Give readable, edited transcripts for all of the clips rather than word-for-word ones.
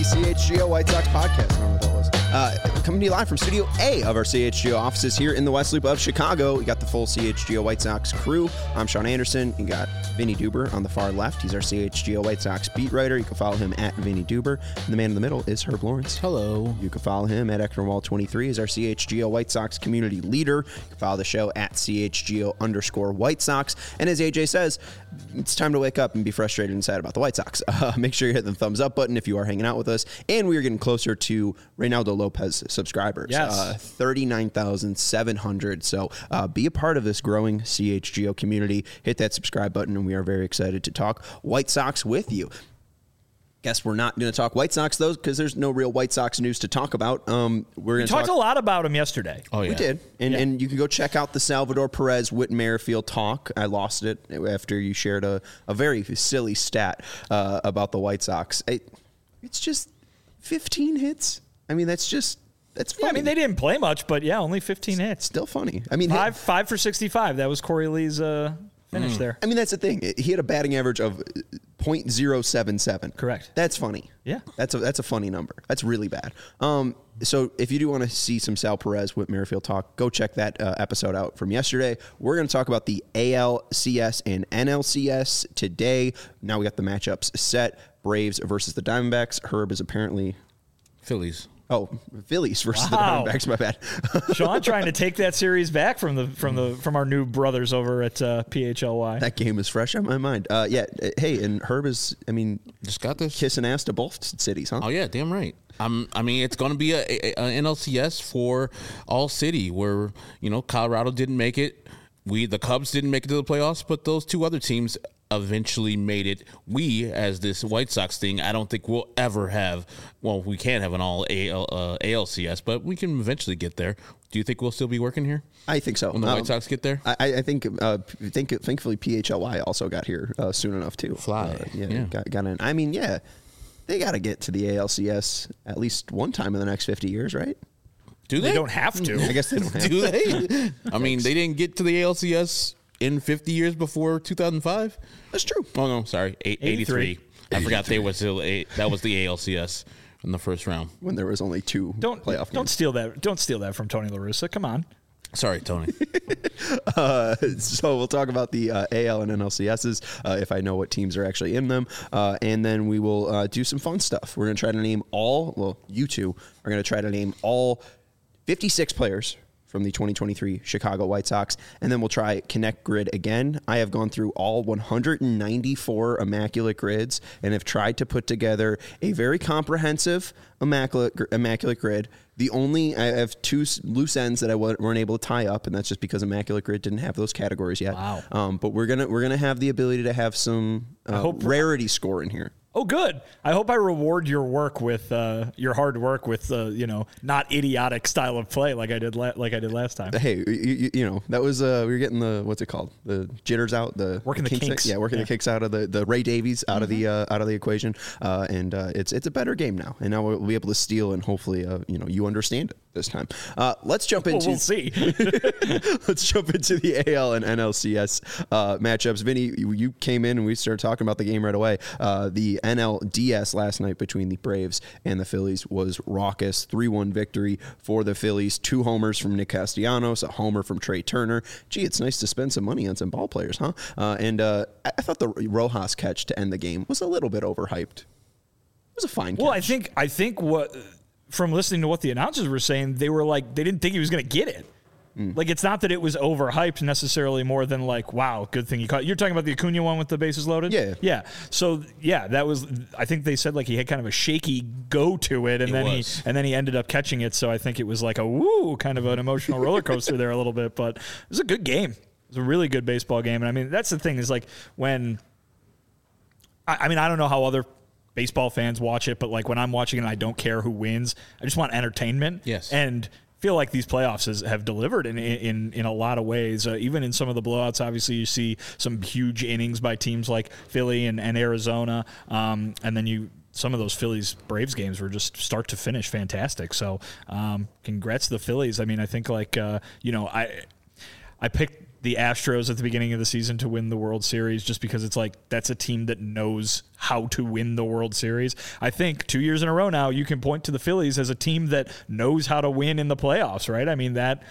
CHGO White Sox podcast. I don't know what that was. Coming to you live from Studio A of our CHGO offices here in the West Loop of Chicago. We got the full CHGO White Sox crew. I'm Sean Anderson. You got Vinny Duber on the far left. He's our CHGO White Sox beat writer. You can follow him at Vinny Duber. And the man in the middle is Herb Lawrence. Hello. You can follow him at Ecknerwall23. He's our CHGO White Sox community leader. You can follow the show at CHGO_White Sox. And as AJ says, it's time to wake up and be frustrated and sad about the White Sox. Make sure you hit the thumbs up button if you are hanging out with us. And we are getting closer to Reynaldo Lopez subscribers. Yes. 39,700. So be a part of this growing CHGO community. Hit that subscribe button, and we are very excited to talk White Sox with you. Guess we're not going to talk White Sox, though, because there's no real White Sox news to talk about. We talked a lot about them yesterday. Oh, yeah. We did. And you can go check out the Salvador Perez Whit Merrifield talk. I lost it after you shared a very silly stat about the White Sox. It's just 15 hits. I mean, that's funny. Yeah, I mean, they didn't play much, but yeah, only 15 hits. Still funny. I mean, five for 65. That was Corey Lee's finish there. I mean, that's the thing. He had a batting average of .077. Correct. That's funny. Yeah. That's a funny number. That's really bad. So if you do want to see some Sal Perez with Merrifield talk, go check that episode out from yesterday. We're going to talk about the ALCS and NLCS today. Now we got the matchups set. Braves versus the Diamondbacks. Herb is apparently Phillies. Oh, Phillies versus the Diamondbacks. My bad. Sean trying to take that series back from our new brothers over at PHLY. That game is fresh on my mind. Yeah. Hey, and Herb is, I mean, just got this kissing ass to both cities, huh? Oh yeah, damn right. I mean, it's going to be a NLCS for all city where Colorado didn't make it. The Cubs didn't make it to the playoffs, but those two other teams eventually made it. We, as this White Sox thing, I don't think we'll ever have. Well, we can't have an all ALCS, but we can eventually get there. Do you think we'll still be working here? I think so. When the White Sox get there, I think thankfully PHLY also got here soon enough too. Yeah. Got in. I mean, yeah, they got to get to the ALCS at least one time in the next 50 years, right? Do they? They don't have to. I guess they don't have Do they? I mean, they didn't get to the ALCS in 50 years before 2005. That's true. Oh no, sorry, 83. I forgot that was the ALCS in the first round when there was only two playoff games. Don't steal that from Tony La Russa. Come on. Sorry, Tony. So we'll talk about the AL and NLCSs if I know what teams are actually in them. And then we will do some fun stuff. We're going to try to name you two are going to try to name all 56 players from the 2023 Chicago White Sox, and then we'll try Connect Grid again. I have gone through all 194 Immaculate Grids and have tried to put together a very comprehensive Immaculate Grid. I have two loose ends that I weren't able to tie up, and that's just because Immaculate Grid didn't have those categories yet. Wow. But we're gonna have the ability to have some rarity score in here. Oh, good. I hope I reward your work with your hard work with not idiotic style of play like I did last time. Hey, that was we were getting the what's it called, the jitters out, working the kinks. The kinks out of the Ray Davies out of the equation, and it's a better game now, and now we'll be able to steal and hopefully you understand it this time. Let's jump into. We'll see. Let's jump into the AL and NLCS matchups. Vinny, you came in and we started talking about the game right away. The NLDS last night between the Braves and the Phillies was raucous. 3-1 victory for the Phillies. 2 homers from Nick Castellanos, a homer from Trey Turner. Gee, it's nice to spend some money on some ball players, huh? And I thought the Rojas catch to end the game was a little bit overhyped. It was a fine catch. Well, I think what from listening to what the announcers were saying, they were like they didn't think he was going to get it. Like, it's not that it was overhyped necessarily more than like, wow, good thing he caught. You're talking about the Acuna one with the bases loaded? Yeah. Yeah. So, yeah, that was, I think they said like he had kind of a shaky go to it, and then he ended up catching it. So I think it was like a woo, kind of an emotional roller coaster there a little bit. But it was a good game. It was a really good baseball game. And I mean, that's the thing is like when, I mean, I don't know how other baseball fans watch it, but like when I'm watching it and I don't care who wins, I just want entertainment. Yes. And feel like these playoffs have delivered in a lot of ways. Even in some of the blowouts, obviously you see some huge innings by teams like Philly and Arizona, and then some of those Phillies-Braves games were just start to finish fantastic. So congrats to the Phillies. I mean, I think like I picked the Astros at the beginning of the season to win the World Series, just because it's like that's a team that knows how to win the World Series. I think 2 years in a row now you can point to the Phillies as a team that knows how to win in the playoffs, right? I mean, I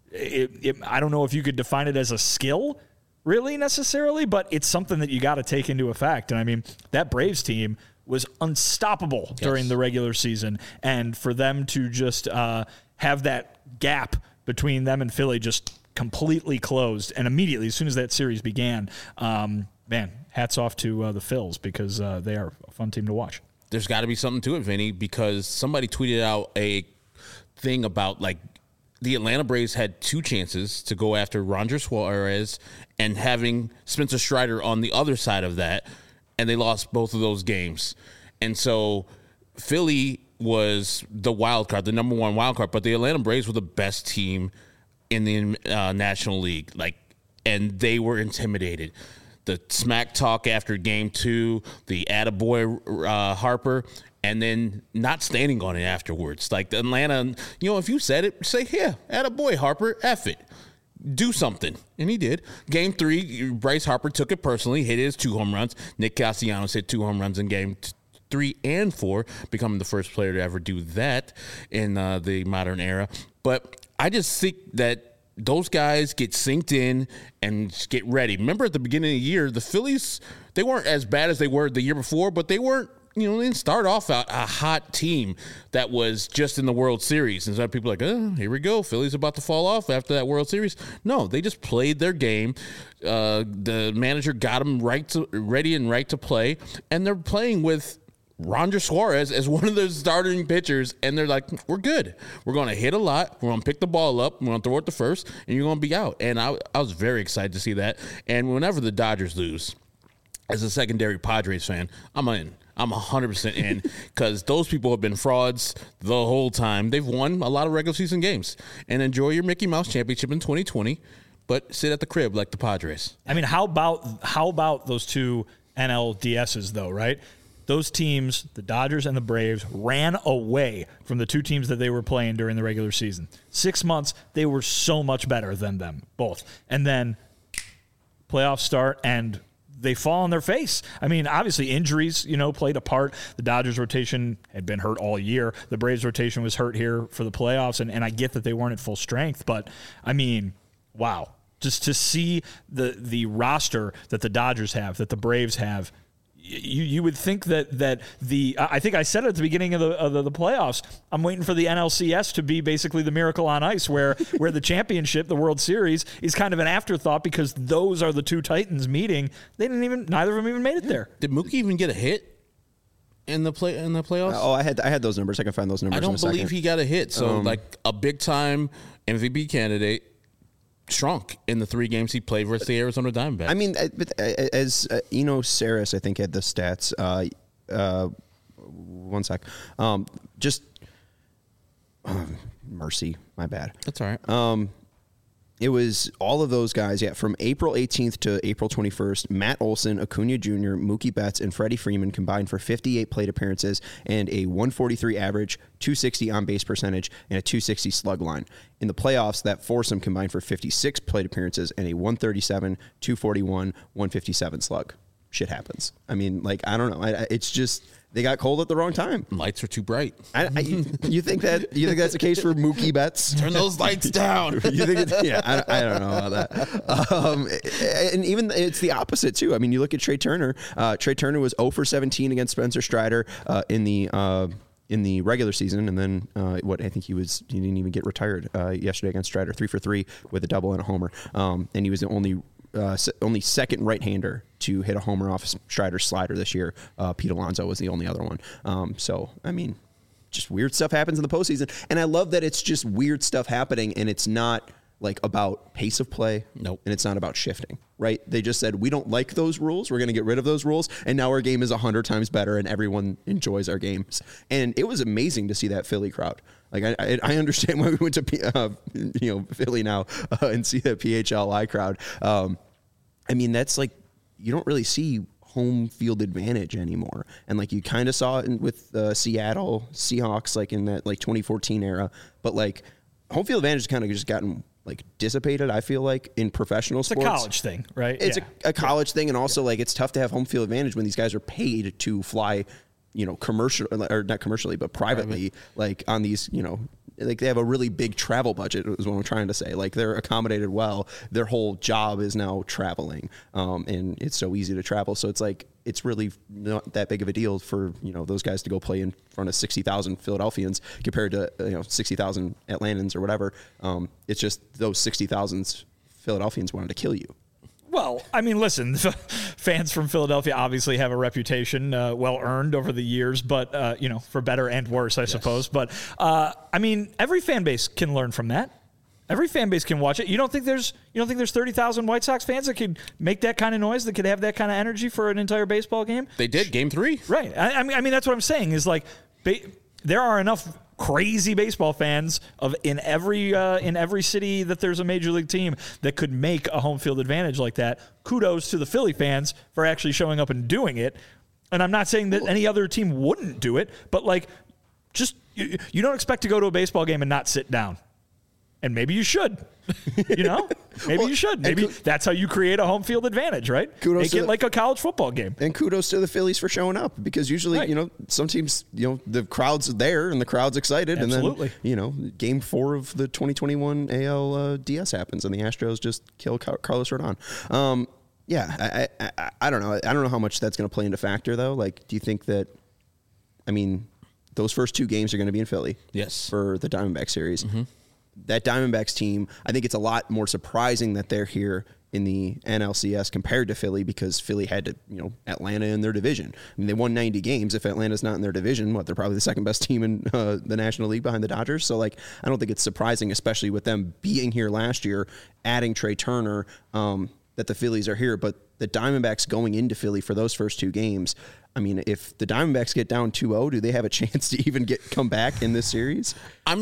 don't know if you could define it as a skill really necessarily, but it's something that you got to take into effect. And I mean, that Braves team was unstoppable during the regular season, and for them to just have that gap between them and Philly just completely closed, and immediately as soon as that series began, man, hats off to the Phils, because they are a fun team to watch. There's got to be something to it, Vinny, because somebody tweeted out a thing about like the Atlanta Braves had 2 chances to go after Ranger Suarez and having Spencer Strider on the other side of that, and they lost both of those games. And so Philly was the wild card, the number 1 wild card, but the Atlanta Braves were the best team in the National League, and they were intimidated. The smack talk after game 2, the attaboy Harper, and then not standing on it afterwards. Like the Atlanta, if you said it, say, yeah, attaboy Harper, F it. Do something. And he did. Game 3, Bryce Harper took it personally, hit his 2 home runs. Nick Castellanos hit 2 home runs in game 3 and 4, becoming the first player to ever do that in the modern era. But I just think that those guys get synced in and get ready. Remember at the beginning of the year, the Phillies, they weren't as bad as they were the year before, but they weren't, they didn't start off a hot team that was just in the World Series. And so people are like, oh, here we go. Philly's about to fall off after that World Series. No, they just played their game. The manager got them ready and right to play. And they're playing with Ranger Suarez as one of their starting pitchers, and they're like, we're good. We're going to hit a lot. We're going to pick the ball up. We're going to throw it to first, and you're going to be out. And I was very excited to see that. And whenever the Dodgers lose, as a secondary Padres fan, I'm in. I'm 100% in, because those people have been frauds the whole time. They've won a lot of regular season games. And enjoy your Mickey Mouse Championship in 2020, but sit at the crib like the Padres. I mean, how about those 2 NLDSs, though, right? Those teams, the Dodgers and the Braves, ran away from the 2 teams that they were playing during the regular season. 6 months, they were so much better than them, both. And then playoffs start, and they fall on their face. I mean, obviously injuries, played a part. The Dodgers rotation had been hurt all year. The Braves rotation was hurt here for the playoffs, and I get that they weren't at full strength, but I mean, wow. Just to see the roster that the Dodgers have, that the Braves have, you would think that I think I said it at the beginning of the playoffs, I'm waiting for the NLCS to be basically the Miracle on Ice, where the championship, the World Series, is kind of an afterthought, because those are the 2 Titans meeting. Neither of them even made it there. Did Mookie even get a hit in the playoffs? Oh, I had those numbers. I can find those numbers. I don't believe he got a hit. So like a big time MVP candidate shrunk in the 3 games he played versus the Arizona Diamondbacks. I mean, as Eno Saris, I think, had the stats. One sec. Mercy, my bad. That's all right. It was all of those guys, from April 18th to April 21st, Matt Olson, Acuna Jr., Mookie Betts, and Freddie Freeman combined for 58 plate appearances and a 143 average, 260 on-base percentage, and a 260 slug line. In the playoffs, that foursome combined for 56 plate appearances and a 137, 241, 157 slug. Shit happens. I mean, I don't know. It's just... They got cold at the wrong time. Lights are too bright. You think that's the case for Mookie Betts? Turn those lights down. You think I don't know about that. And even it's the opposite too. I mean, you look at Trey Turner. Trey Turner was 0 for 17 against Spencer Strider in the regular season, and then I think he didn't even get retired yesterday against Strider, 3 for 3 with a double and a homer. And he was the only second right-hander to hit a homer off Strider's slider this year. Pete Alonso was the only other one. So, I mean, just weird stuff happens in the postseason. And I love that it's just weird stuff happening, and it's not about pace of play. Nope. And it's not about shifting, right? They just said, we don't like those rules. We're going to get rid of those rules. And now our game is 100 times better, and everyone enjoys our games. And it was amazing to see that Philly crowd. I understand why we went to Philly now and see the PHLI crowd. I mean, that's you don't really see home field advantage anymore, and you kind of saw it with Seattle Seahawks in that 2014 era. But home field advantage has kind of just gotten like dissipated. I feel like in professional sports, It's a college thing, right? It's a college thing, and also like it's tough to have home field advantage when these guys are paid to fly, commercial or not commercially, but privately, like on these, like they have a really big travel budget is what I'm trying to say. Like they're accommodated well. Their whole job is now traveling, and it's so easy to travel. So it's like it's really not that big of a deal for those guys to go play in front of 60,000 Philadelphians compared to 60,000 Atlantans or whatever. It's just those 60,000 Philadelphians wanted to kill you. Well, I mean, listen, fans from Philadelphia obviously have a reputation well earned over the years, but, for better and worse, I suppose. But, I mean, every fan base can learn from that. Every fan base can watch it. You don't think there's 30,000 White Sox fans that could make that kind of noise, that could have that kind of energy for an entire baseball game? They did, Game 3. Right. I mean, that's what I'm saying is like there are enough crazy baseball fans in every city that there's a major league team that could make a home field advantage like that. Kudos to the Philly fans for actually showing up and doing it. And I'm not saying that any other team wouldn't do it, but like just you don't expect to go to a baseball game and not sit down. And maybe you should, maybe you should. Maybe that's how you create a home field advantage, right? Make it like a college football game. And kudos to the Phillies for showing up because usually, some teams, the crowd's there and the crowd's excited. Absolutely. And then, game 4 of the 2021 AL DS happens and the Astros just kill Carlos Rodon. I don't know. I don't know how much that's going to play into factor though. Like, do you think that, those first 2 games are going to be in Philly? Yes. For the Diamondback series. Mm-hmm. That Diamondbacks team, I think it's a lot more surprising that they're here in the NLCS compared to Philly because Philly had to, Atlanta in their division. I mean, they won 90 games. If Atlanta's not in their division, they're probably the second best team in the National League behind the Dodgers. So, I don't think it's surprising, especially with them being here last year, adding Trey Turner, that the Phillies are here. But the Diamondbacks going into Philly for those first 2 games, if the Diamondbacks get down 2-0, do they have a chance to even come back in this series?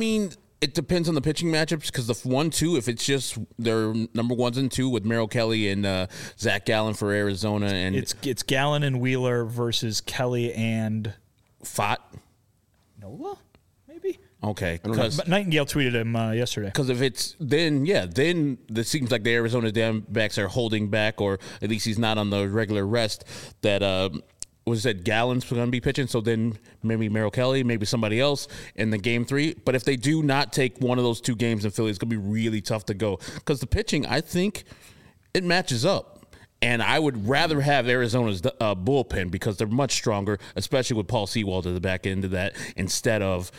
It depends on the pitching matchups because the 1-2, if it's just their number 1s and 2 with Merrill Kelly and Zach Gallen for Arizona, and it's Gallen and Wheeler versus Kelly and Fott, Nola, maybe. Okay, but Nightingale tweeted him yesterday. Because if it's then it seems like the Arizona Diamondbacks are holding back, or at least he's not on the regular rest that. Was that Gallen's going to be pitching? So then maybe Merrill Kelly, maybe somebody else in the Game 3. But if they do not take one of those 2 games in Philly, it's going to be really tough to go. Because the pitching, I think, it matches up. And I would rather have Arizona's bullpen because they're much stronger, especially with Paul Sewald at the back end of that, instead of,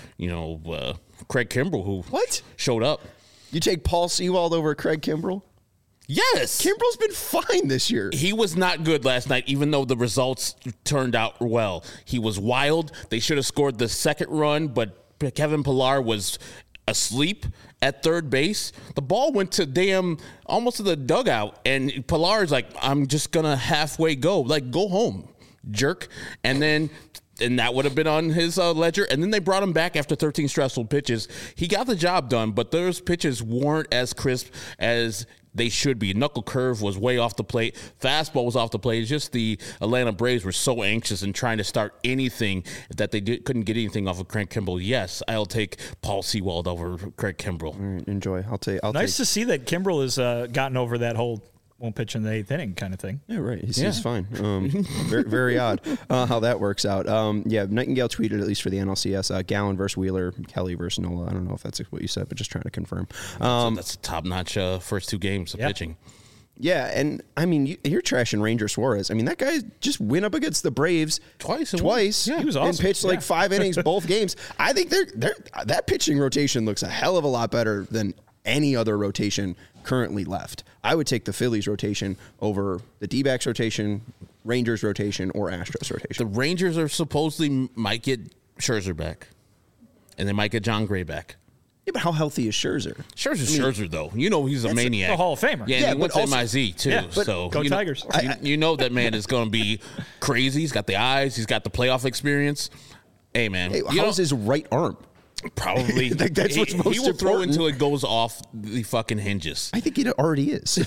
Craig Kimbrell, who showed up. You take Paul Sewald over Craig Kimbrell? Yes. Kimbrell's been fine this year. He was not good last night, even though the results turned out well. He was wild. They should have scored the second run, but Kevin Pillar was asleep at third base. The ball went to almost to the dugout, and Pillar's like, I'm just going to halfway go. Like, go home, jerk. And that would have been on his ledger. And then they brought him back after 13 stressful pitches. He got the job done, but those pitches weren't as crisp as they should be. Knuckle curve was way off the plate. Fastball was off the plate. It's just the Atlanta Braves were so anxious and trying to start anything that they couldn't get anything off of Craig Kimbrell. Yes, I'll take Paul Sewald over Craig Kimbrell. All right, enjoy. Nice to see that Kimbrell has gotten over that whole won't pitch in the 8th inning kind of thing. Yeah, right. He's fine. Very, very odd how that works out. Nightingale tweeted, at least for the NLCS, Gallen versus Wheeler, Kelly versus Nola. I don't know if that's what you said, but just trying to confirm. That's a top-notch first 2 games of pitching. Yeah, and you're trashing Ranger Suarez. That guy just went up against the Braves twice. Yeah, he was awesome. And pitched 5 innings both games. I think that pitching rotation looks a hell of a lot better than any other rotation currently left. I would take the Phillies rotation over the D-backs rotation, Rangers rotation, or Astros rotation. The Rangers are supposedly might get Scherzer back, and they might get John Gray back. Yeah, but how healthy is Scherzer? Scherzer, though. He's a maniac. A Hall of Famer. Yeah, and he went to MIZ, too. Yeah, so go Tigers. That man is going to be crazy. He's got the eyes. He's got the playoff experience. Hey, man. How's his right arm? Probably. That's what's most important. He will throw until it goes off the fucking hinges. I think it already is.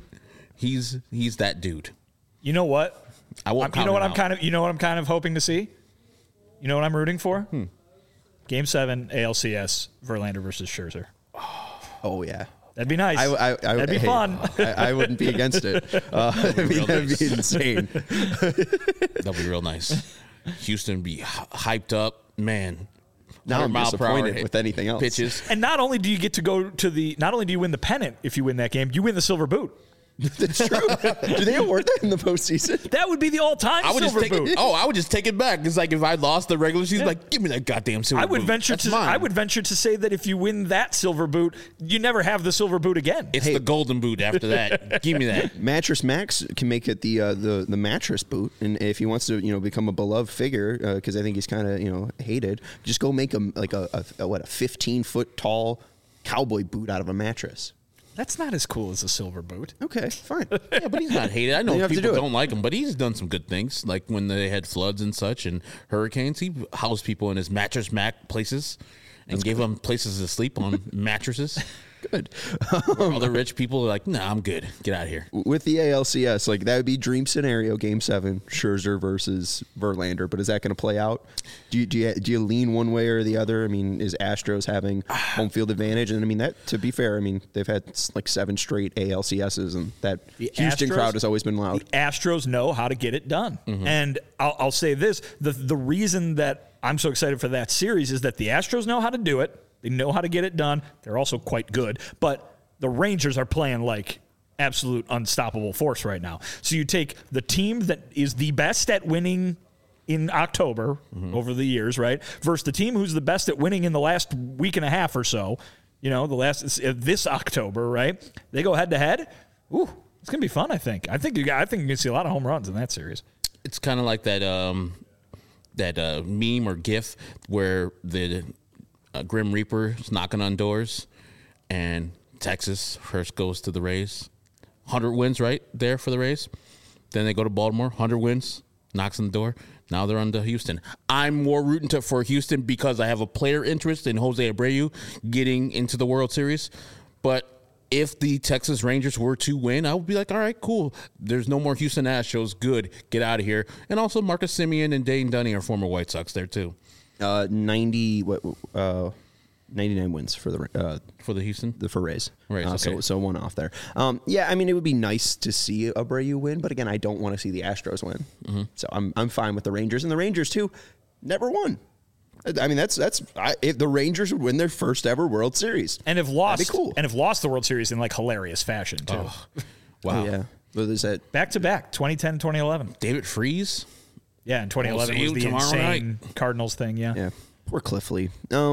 He's that dude. You know what? I won't. You know what I'm kind of hoping to see. You know what I'm rooting for? Hmm. Game 7 ALCS Verlander versus Scherzer. Oh yeah. That'd be nice. That'd be hey, fun. I wouldn't be against it. That'd be insane. That'd be real nice. Houston would be hyped up, man. Now I'm 100 disappointed with anything else. Pitches. And not only do you get to go to not only do you win the pennant if you win that game, you win the silver boot. That's true. Do they award that in the postseason? That would be the all-time silver boot. I would just take it back. It's like if I lost the regular season, like give me that goddamn silver boot. I would venture to say that if you win that silver boot, you never have the silver boot again. It's the golden boot after that. Give me that. Mattress Max can make it the mattress boot, and if he wants to become a beloved figure, because I think he's kind of hated, just go make him like a 15-foot tall cowboy boot out of a mattress. That's not as cool as a silver boot. Okay, fine. Yeah, but he's not hated. I know have to people do it. don't like him, but he's done some good things. Like when they had floods and such and hurricanes, he housed people in his Mattress Mac places and gave them places to sleep on mattresses. Good. Other rich people are like, nah, I'm good. Get out of here. With the ALCS, like that would be dream scenario, Game 7, Scherzer versus Verlander. But is that going to play out? Do you lean one way or the other? I mean, is Astros having home field advantage? And I mean that, to be fair, I mean they've had like 7 straight ALCSs, and that Houston crowd has always been loud. The Astros know how to get it done, and I'll say this: the reason that I'm so excited for that series is that the Astros know how to do it. They know how to get it done. They're also quite good. But the Rangers are playing like absolute unstoppable force right now. So you take the team that is the best at winning in October over the years, right, versus the team who's the best at winning in the last week and a half or so, this October, right? They go head-to-head. Ooh, it's going to be fun, I think. I think you're going to see a lot of home runs in that series. It's kind of like that meme or GIF where the Grim Reaper is knocking on doors, and Texas first goes to the Rays. 100 wins right there for the Rays. Then they go to Baltimore, 100 wins, knocks on the door. Now they're on to Houston. I'm more rooting for Houston because I have a player interest in Jose Abreu getting into the World Series. But if the Texas Rangers were to win, I would be like, all right, cool. There's no more Houston Astros. Good. Get out of here. And also Marcus Semien and Dane Dunning are former White Sox there too. 99 wins for the Houston for Rays. Rays, okay. So one off there. Yeah, I mean it would be nice to see Abreu win, but again, I don't want to see the Astros win. So I'm fine with the Rangers, and the Rangers too never won. I mean if the Rangers would win their first ever World Series, and have lost, that'd be cool. And have lost the World Series in like hilarious fashion too. Oh, wow. Yeah. What is that? Back to back, 2010, 2011. David Freese. Yeah, and 2011 was the insane Cardinals thing. Yeah. Poor Cliff Lee.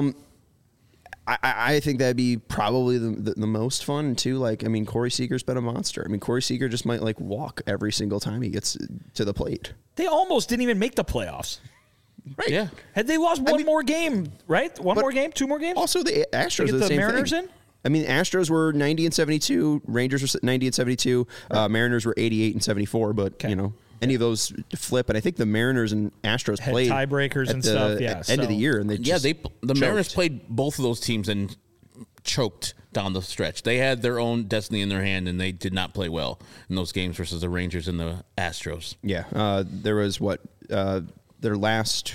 I think that'd be probably the most fun too. Like, I mean, Corey Seager's been a monster. I mean, Corey Seager just might like walk every single time he gets to the plate. They almost didn't even make the playoffs. Right. Yeah. Had they lost one more game, right? One more game, 2 more games? Also, the Astros get are the same Mariners thing. in? I mean, Astros were 90 and 72. Rangers were 90 and 72. Mariners were 88 and 74. But any of those flip, and I think the Mariners and Astros had played tiebreakers and stuff. Yeah, end of the year, and the Mariners played both of those teams and choked down the stretch. They had their own destiny in their hand, and they did not play well in those games versus the Rangers and the Astros. Yeah, there was their last.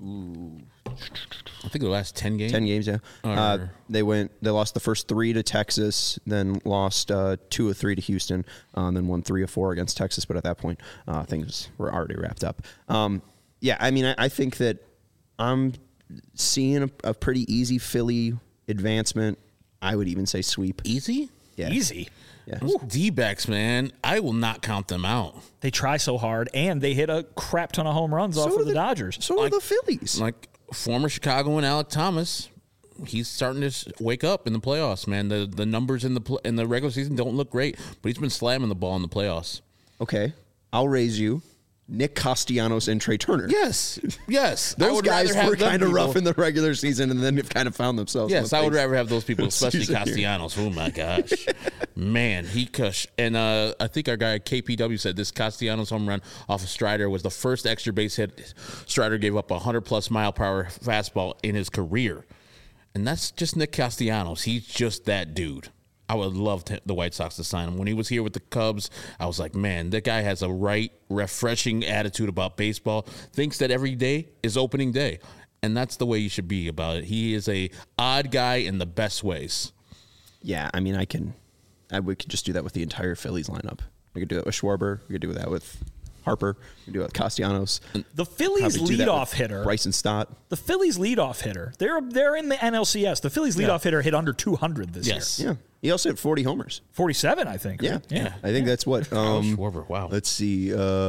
I think the last 10 games. 10 games, yeah. They lost the first 3 to Texas, then lost 2 of 3 to Houston, then won 3 of 4 against Texas. But at that point, things were already wrapped up. Yeah, I mean, I think that I'm seeing a pretty easy Philly advancement. I would even say sweep. Easy? Yeah. Easy. Yeah. Those D-backs, man, I will not count them out. They try so hard, and they hit a crap ton of home runs off of the Dodgers. So are the Phillies. Like former Chicagoan Alek Thomas, he's starting to wake up in the playoffs, man. The numbers in the regular season don't look great, but he's been slamming the ball in the playoffs. Okay, I'll raise you. Nick Castellanos and Trey Turner. Yes. Those guys were kind of rough in the regular season, and then have kind of found themselves. Yes, I would rather have those people, especially Castellanos. Oh my gosh, man, he cush. And I think our guy KPW said this Castellanos home run off of Strider was the first extra base hit Strider gave up 100+ mile per hour fastball in his career, and that's just Nick Castellanos. He's just that dude. I would love the White Sox to sign him. When he was here with the Cubs, I was like, man, that guy has a refreshing attitude about baseball, thinks that every day is opening day. And that's the way you should be about it. He is a odd guy in the best ways. Yeah, I mean, we could just do that with the entire Phillies lineup. We could do it with Schwarber. We could do that with Harper. We could do it with Castellanos. The Phillies leadoff hitter, Bryson Stott. The Phillies leadoff hitter. They're in the NLCS. The Phillies leadoff hitter hit under 200 this year. Yeah, he also hit 40 homers. 47, I think. Right? Yeah, I think that's what. Schwarber. Wow. Let's see,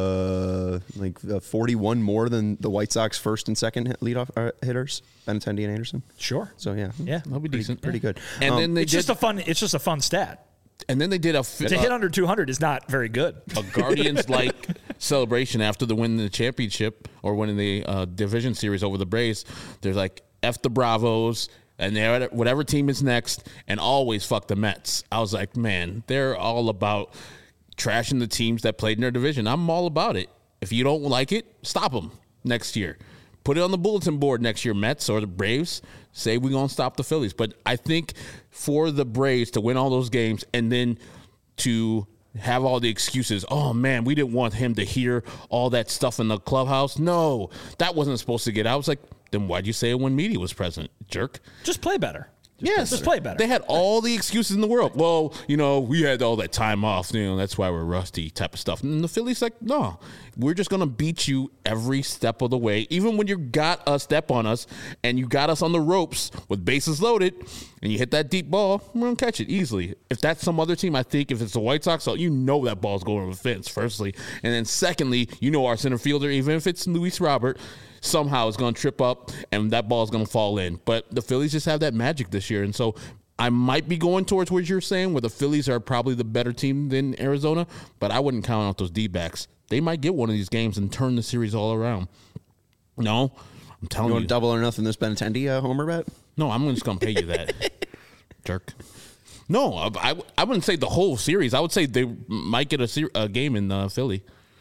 41 more than the White Sox first and second leadoff hitters, Benintendi and Anderson. Sure. So yeah, that'll be decent. Pretty good. And then It's just a fun stat. And then they did to hit under 200 is not very good. A Guardians-like celebration after the winning the championship or winning the division series over the Braves. There's like F the Bravos and they're whatever team is next, and always fuck the Mets. I was like, man, they're all about trashing the teams that played in their division. I'm all about it. If you don't like it, stop them next year. Put it on the bulletin board next year, Mets or the Braves. Say we're going to stop the Phillies. But I think for the Braves to win all those games and then to have all the excuses, oh, man, we didn't want him to hear all that stuff in the clubhouse. No, that wasn't supposed to get out. I was like, then why'd you say it when media was present, jerk? Just play better. Just play better. They had all the excuses in the world. Well, we had all that time off. That's why we're rusty type of stuff. And the Phillies like, no, we're just going to beat you every step of the way. Even when you got a step on us and you got us on the ropes with bases loaded and you hit that deep ball, we're going to catch it easily. If that's some other team, I think if it's the White Sox, that ball's going over the fence, firstly. And then secondly, our center fielder, even if it's Luis Robert, somehow is going to trip up and that ball is going to fall in. But the Phillies just have that magic this year. And so I might be going towards what you're saying, where the Phillies are probably the better team than Arizona, but I wouldn't count out those D-backs. They might get one of these games and turn the series all around. No, I'm telling you. You want double or nothing this Benintendi homer bet? No, I'm just going to pay you that, jerk. No, I wouldn't say the whole series. I would say they might get a game in Philly.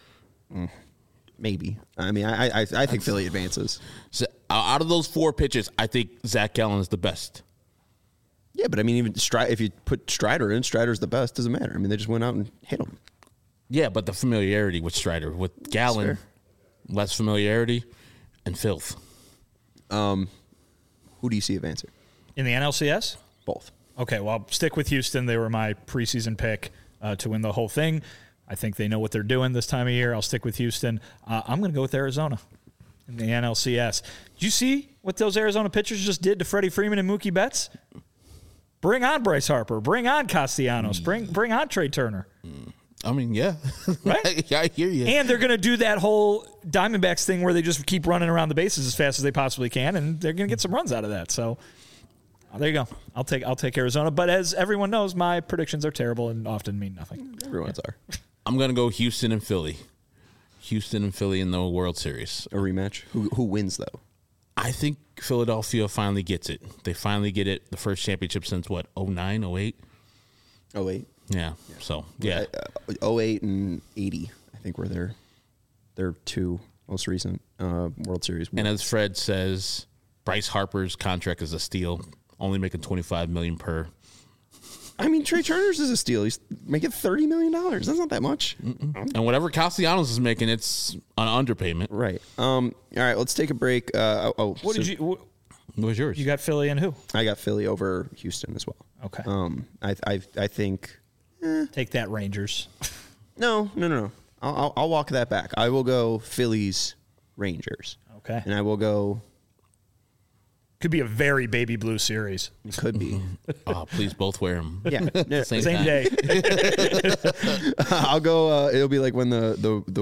Maybe. I mean, I think Philly advances. So, out of those 4 pitches, I think Zach Gallen is the best. Yeah, but I mean, even if you put Strider in, Strider's the best. Doesn't matter. I mean, they just went out and hit him. Yeah, but the familiarity with Strider. With Gallen, less familiarity and filth. Who do you see advancing? In the NLCS? Both. Okay, well, I'll stick with Houston. They were my preseason pick to win the whole thing. I think they know what they're doing this time of year. I'll stick with Houston. I'm going to go with Arizona in the NLCS. Did you see what those Arizona pitchers just did to Freddie Freeman and Mookie Betts? Bring on Bryce Harper. Bring on Castellanos. Bring on Trey Turner. I mean, yeah. Right? Yeah, I hear you. And they're going to do that whole Diamondbacks thing where they just keep running around the bases as fast as they possibly can, and they're going to get some runs out of that. So there you go. I'll take Arizona. But as everyone knows, my predictions are terrible and often mean nothing. Everyone's are. I'm going to go Houston and Philly. Houston and Philly in the World Series. A rematch? Who wins, though? I think Philadelphia finally gets it. They finally get it. The first championship since, 09, 08? 08. Yeah. So, yeah. 08 and 80, I think, were their 2 most recent World Series wins. And as Fred says, Bryce Harper's contract is a steal, only making $25 million per. I mean, Trey Turner's is a steal. He's making $30 million. That's not that much. And whatever Castellanos is making, it's an underpayment. Right. All right, let's take a break. What was yours? You got Philly and who? I got Philly over Houston as well. Okay. I think. Take that, Rangers. No. I'll walk that back. I will go Phillies, Rangers. Okay. And I will go. Could be a very baby blue series. It could be. Oh, please both wear them. Yeah. Same day. I'll go. It'll be like when the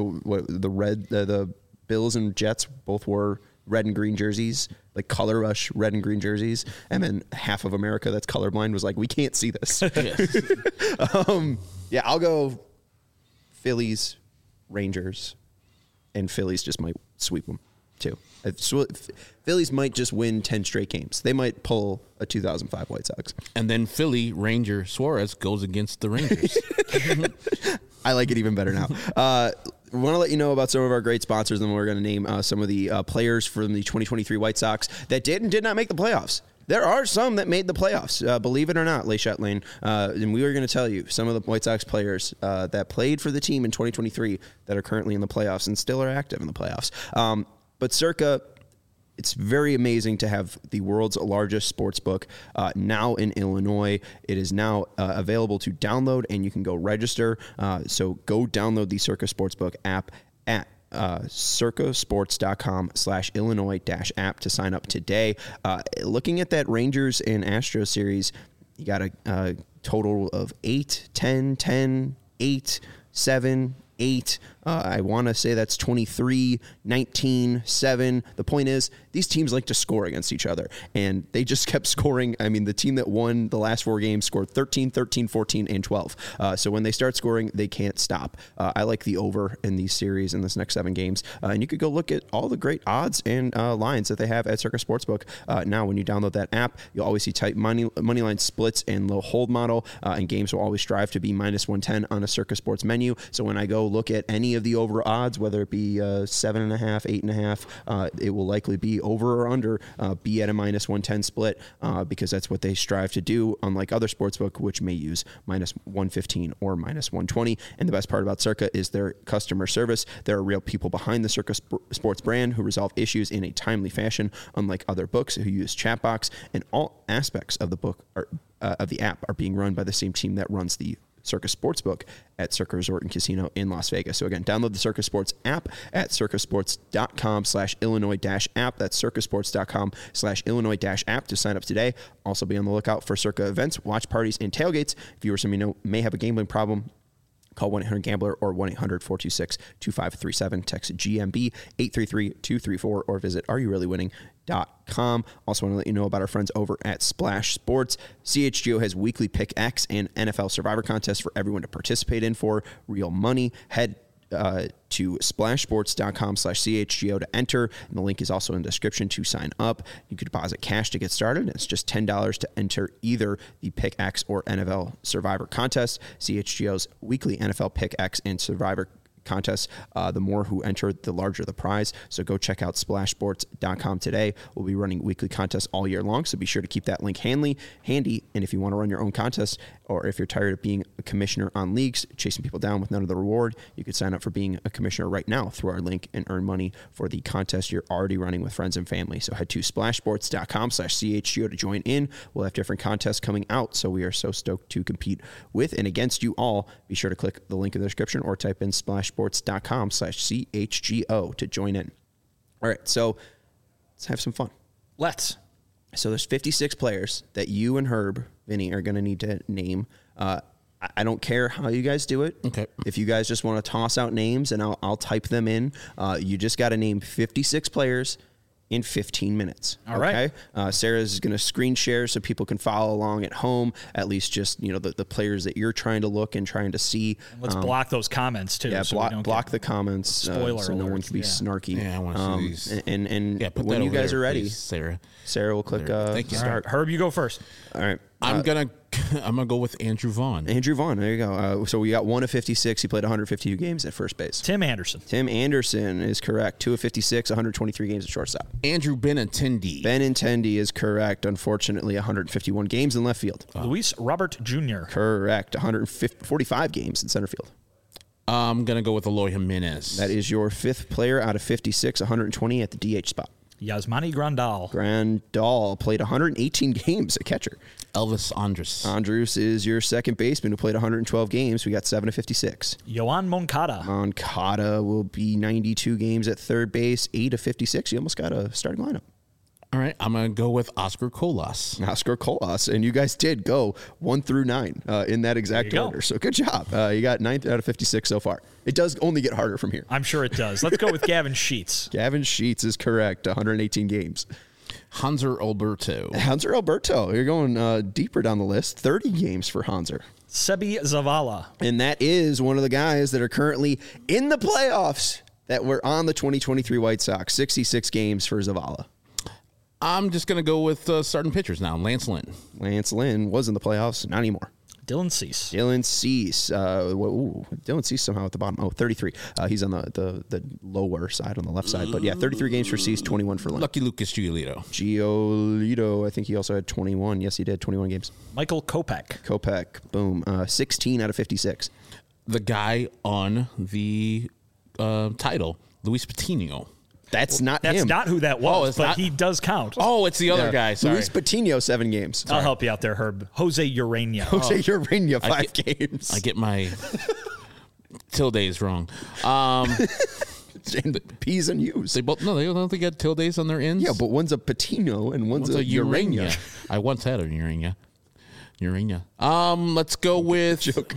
Bills and Jets both wore red and green jerseys, like Color Rush red and green jerseys, and then half of America that's colorblind was like, we can't see this. Yes. Yeah, I'll go Phillies, Rangers, and Phillies just might sweep them too. Phillies might just win 10 straight games. They might pull a 2005 White Sox. And then Philly Ranger Suarez goes against the Rangers. I like it even better now. We want to let you know about some of our great sponsors, and we're going to name some of the players from the 2023 White Sox that did and did not make the playoffs. There are some that made the playoffs, believe it or not, Leichet Lane. And we are going to tell you some of the White Sox players that played for the team in 2023 that are currently in the playoffs and still are active in the playoffs. But circa it's very amazing to have the world's largest sports book now in Illinois. It is now available to download, and you can go register. So go download the Circa Sportsbook app at circasports.com/Illinois-app to sign up today. Looking at that Rangers and Astros series, you got a total of 8, 10, 10, 8, 7, 8. I want to say that's 23, 19, 7. The point is, these teams like to score against each other, and they just kept scoring. I mean, the team that won the last 4 games scored 13, 13, 14, and 12. So when they start scoring, they can't stop. I like the over in these series in this next 7 games. And you could go look at all the great odds and lines that they have at Circa Sportsbook. Now, when you download that app, you'll always see tight money line splits and low hold model, and games will always strive to be minus 110 on a Circa Sports menu. So when I go look at any of the over odds, whether it be 7.5, 8.5, it will likely be over or under, be at a minus 110 split, because that's what they strive to do, unlike other sportsbook, which may use minus 115 or minus 120. And the best part about Circa is their customer service. There are real people behind the Circa Sports brand who resolve issues in a timely fashion, unlike other books who use chatbox, and all aspects of the book of the app are being run by the same team that runs the Circa Sportsbook at Circa Resort and Casino in Las Vegas. So again, download the Circa Sports app at circasports.com/Illinois-app. That's circasports.com/Illinois-app to sign up today. Also be on the lookout for Circa events, watch parties, and tailgates. If you or someone you know may have a gambling problem, call 1-800-GAMBLER or 1-800-426-2537. Text GMB 833-234 or visit areyourreallywinning.com. Also want to let you know about our friends over at Splash Sports. CHGO has weekly Pick X and NFL Survivor contests for everyone to participate in for real money. Head to splashsports.com/CHGO to enter, and the link is also in the description to sign up. You can deposit cash to get started. It's just $10 to enter either the Pick X or NFL Survivor contest. CHGO's weekly NFL Pick X and Survivor contests, the more who enter, the larger the prize. So go check out splashsports.com today. We'll be running weekly contests all year long, so be sure to keep that link handy. And if you want to run your own contest, or if you're tired of being a commissioner on leagues, chasing people down with none of the reward, you could sign up for being a commissioner right now through our link and earn money for the contest you're already running with friends and family. So head to splashsports.com/CHGO to join in. We'll have different contests coming out, so we are so stoked to compete with and against you all. Be sure to click the link in the description or type in splashsports.com/CHGO to join in. All right, so let's have some fun. Let's. So there's 56 players that you and Herb, Vinny, are going to need to name. I don't care how you guys do it. Okay. If you guys just want to toss out names and I'll type them in, you just got to name 56 players in 15 minutes. All right. Sarah's going to screen share so people can follow along at home, at least just, the players that you're trying to look and trying to see. Let's block those comments too. Yeah, so block the comments spoiler so no one alerts, can be snarky. Yeah, I want to see these. And Put when that you over guys there, are ready, please, Sarah will click Thank you. start. Herb, you go first. All right. I'm gonna go with Andrew Vaughn. Andrew Vaughn, there you go. So we got 1 of 56. He played 152 games at first base. Tim Anderson. Tim Anderson is correct. 2 of 56, 123 games at shortstop. Andrew Benintendi. Benintendi is correct. Unfortunately, 151 games in left field. Luis Robert Jr. Correct. 145 games in center field. I'm gonna go with Eloy Jimenez. That is your 5th player out of 56, 120 at the DH spot. Yasmani Grandal. Grandal played 118 games at catcher. Elvis Andrus. Andrus is your 2nd baseman who played 112 games. We got 7 of 56. Yohan Moncada. Moncada will be 92 games at third base, 8 of 56. You almost got a starting lineup. All right, I'm going to go with Oscar Colas. Oscar Colas, and you guys did go 1 through 9 in that exact order. So good job. You got 9th out of 56 so far. It does only get harder from here. I'm sure it does. Let's go with Gavin Sheets. Gavin Sheets is correct. 118 games. Hanser Alberto. Hanser Alberto. You're going deeper down the list. 30 games for Hanser. Sebi Zavala. And that is one of the guys that are currently in the playoffs that were on the 2023 White Sox. 66 games for Zavala. I'm just going to go with starting pitchers now. Lance Lynn. Lance Lynn was in the playoffs. Not anymore. Dylan Cease. Dylan Cease. Dylan Cease somehow at the bottom. 33. He's on the lower side on the left side. But yeah, 33 games for Cease, 21 for Lynn. Lucky Lucas Giolito. Giolito, I think he also had 21. Yes, he did. 21 games. Michael Kopech. Kopech, boom. 16 out of 56. The guy on the title, Luis Patino. That's not That's him. not who that Oh, was, it's but not? he does count. Oh, it's the other Yeah. guy. Sorry. Luis Patino, 7 games. I'll help you out there, Herb. Jose Urena. Jose Urena, 5 games. I get my tildes wrong. And P's and U's. They both no, they don't think get tildes on their ends. Yeah, but one's a Patino and one's a Urena. I once had a Urena. Let's go with Joke.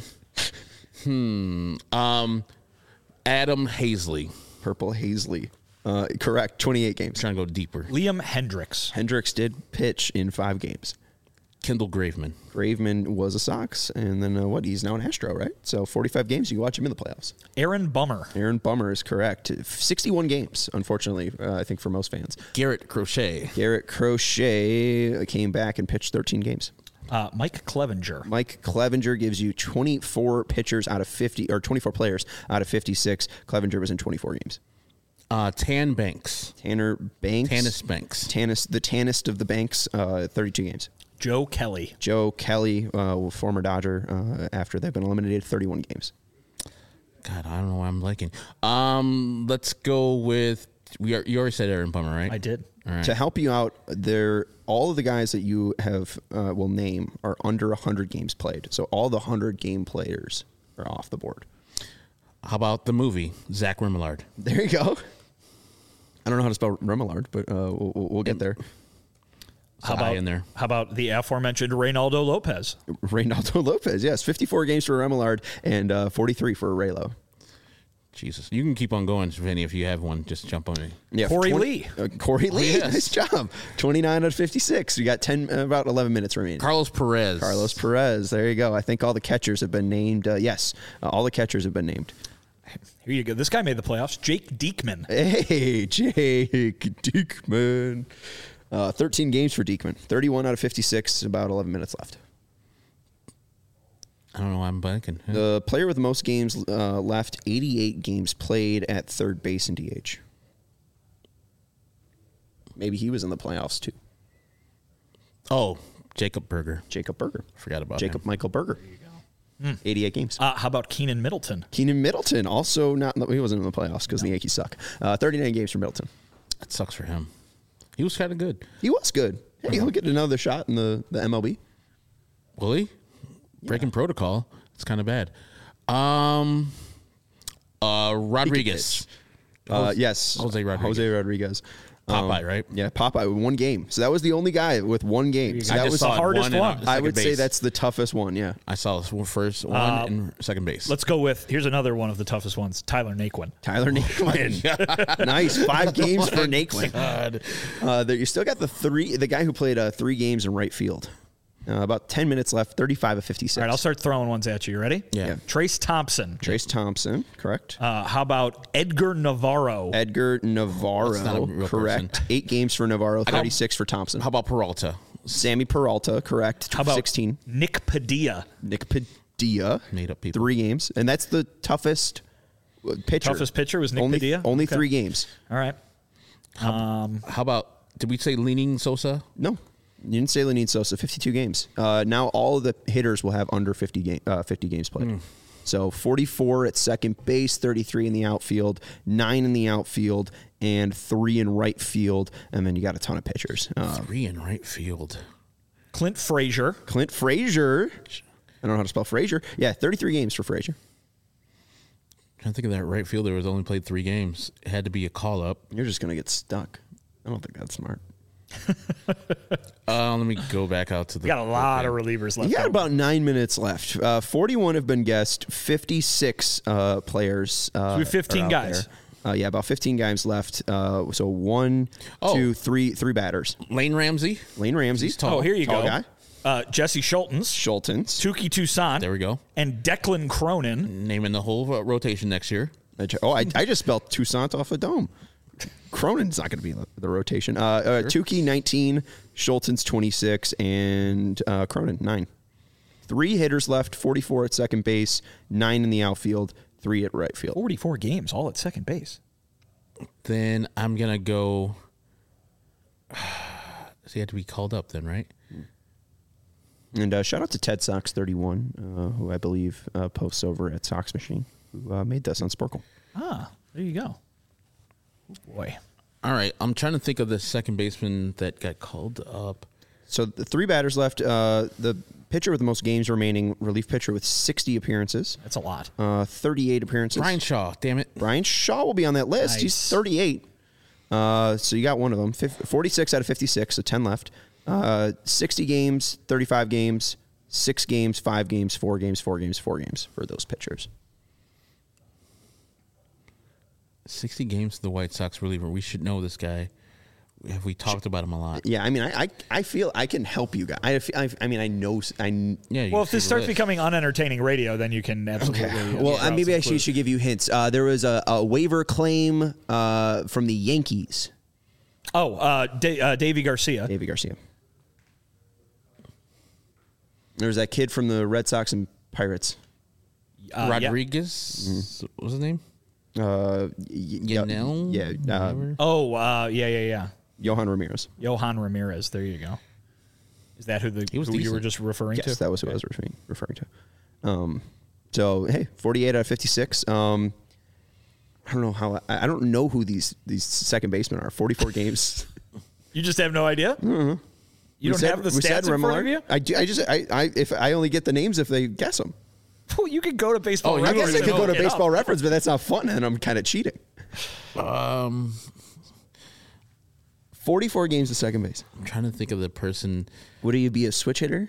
Adam Hazley. Purple Hazley. Correct. 28 games. Trying to go deeper. Liam Hendricks. Hendricks did pitch in 5 games. Kendall Graveman. Graveman was a Sox, and then he's now an Astro, right? So 45 games, you can watch him in the playoffs. Aaron Bummer. Aaron Bummer is correct. 61 games, unfortunately, I think for most fans. Garrett Crochet. Garrett Crochet came back and pitched 13 games. Mike Clevenger. Mike Clevenger gives you 24 pitchers out of 50, or 24 players out of 56. Clevenger was in 24 games. Tan Banks. Tanner Banks. Tannis Banks. The tannest of the Banks, 32 games. Joe Kelly. Joe Kelly, former Dodger, after they've been eliminated, 31 games. God, I don't know what I'm liking. Let's go with you already said Aaron Bummer, right? I did. All right. To help you out, all of the guys that you have will name are under 100 games played. So all the 100 game players are off the board. How about the movie Zach Remillard? There you go. I don't know how to spell Remillard, but we'll get there. How about in there? How about the aforementioned Reynaldo Lopez? Reynaldo Lopez, yes. 54 games for Remillard and 43 for Raylo. Jesus. You can keep on going, Vinny, if you have one. Just jump on me. Yeah, Corey Lee. Corey Lee, yes. nice job. 29 out of 56. You got about 11 minutes remaining. Carlos Perez. Carlos Perez, there you go. I think all the catchers have been named. Yes, all the catchers have been named. Here you go. This guy made the playoffs. Jake Diekman. Hey, Jake Diekman. 13 games for Diekman. 31 out of 56, about 11 minutes left. I don't know why I'm blanking. The player with the most games left, 88 games played at third base and DH. Maybe he was in the playoffs too. Oh, Jacob Berger. Jacob Berger. Forgot about Jacob him. Michael Berger. 88 games. How about Keenan Middleton? Keenan Middleton, also not. He wasn't in the playoffs because the Yankees suck. 39 games for Middleton. That sucks for him. He was kind of good. He was good. Hey, he'll get another shot in the MLB. Will he? Breaking protocol. It's kind of bad. Rodriguez. Yes. Jose Rodriguez. Jose Rodriguez. Popeye, right? Yeah, Popeye with 1 game. So that was the only guy with 1 game. So I that just was saw the hardest one. one. I would say base. that's the toughest one. Yeah. I saw this first one in second base. Let's go with, here's another one of the toughest ones, Tyler Naquin. Tyler Naquin. Nice. 5 games for Naquin. God. You still got the guy who played 3 games in right field. About 10 minutes left, 35 of 56. All right, I'll start throwing ones at you. You ready? Yeah. Trace Thompson. Trace Thompson, correct. How about Edgar Navarro? Edgar Navarro, That's not a real correct. person. 8 games for Navarro, 36 for Thompson. How about Peralta? Sammy Peralta, correct. How about 16. Nick Padilla? Nick Padilla, Made up people. 3 games. And that's the toughest pitcher. Toughest pitcher was Nick only, Padilla? Only Okay. 3 games. All right. How about, did we say Leaning Sosa? No. You didn't say Lenin Sosa, 52 games. Now all of the hitters will have under 50 games played. So 44 at second base, 33 in the outfield, 9 in the outfield, and 3 in right field. And then you got a ton of pitchers. 3 in right field. Clint Frazier. Clint Frazier. I don't know how to spell Frazier. Yeah, 33 games for Frazier. Trying to think of that right fielder who has only played 3 games. It had to be a call up. You're just going to get stuck. I don't think that's smart. Let me go back out to the. We got a lot of relievers left. You got about 9 minutes left. 41 have been guessed. 56 players. we have 15 are out guys. there. Yeah, about 15 guys left. So 1, 2, 3 batters. Lane Ramsey. Lane Ramsey. He's tall. Oh, here you Tall go. guy. Jesse Schultens. Schultens. Tuki Toussaint. There we go. And Declan Cronin. Naming the whole rotation next year. I just spelled Toussaint off a dome. Cronin's not going to be in the rotation. Tukey 19, Schultens 26, and Cronin 9. 3 hitters left, 44 at second base, 9 in the outfield, 3 at right field. 44 games, all at second base. Then I'm going to go. So he had to be called up then, right? And shout out to Ted Sox 31, who I believe posts over at Sox Machine, who made this on Sporkle. Ah, there you go. Oh, boy. All right, I'm trying to think of the second baseman that got called up. So the 3 batters left. The pitcher with the most games remaining, relief pitcher with 60 appearances. That's a lot. 38 appearances. Brian Shaw, damn it. Brian Shaw will be on that list. Nice. He's 38. So you got one of them. 46 out of 56, so 10 left. 60 games, 35 games, 6 games, 5 games, 4 games, 4 games, 4 games for those pitchers. 60 games to the White Sox reliever. We should know this guy. Have we talked about him a lot? Yeah, I mean, I feel I can help you guys. I mean, I know. Yeah. Well, if this starts becoming unentertaining radio, then you can absolutely. Well, maybe I should give you hints. There was a waiver claim from the Yankees. Davey Garcia. Davey Garcia. There was that kid from the Red Sox and Pirates. Rodriguez. What was his name? Yanel? Yeah. Yeah. Johan Ramirez. Johan Ramirez. There you go. Is that who you were decent. just referring to? Yes, that was who I was referring to. So hey, 48 out of 56. I don't know how. I don't know who these second basemen are. 44 games. You just have no idea. Mm-hmm. You don't have the stats in front of you. I do. If I only get the names if they guess them. Well, you could go to Baseball I Reference. guess I could go to Baseball Reference, but that's not fun, and I'm kind of cheating. 44 games at second base. I'm trying to think of the person. Would he be a switch hitter?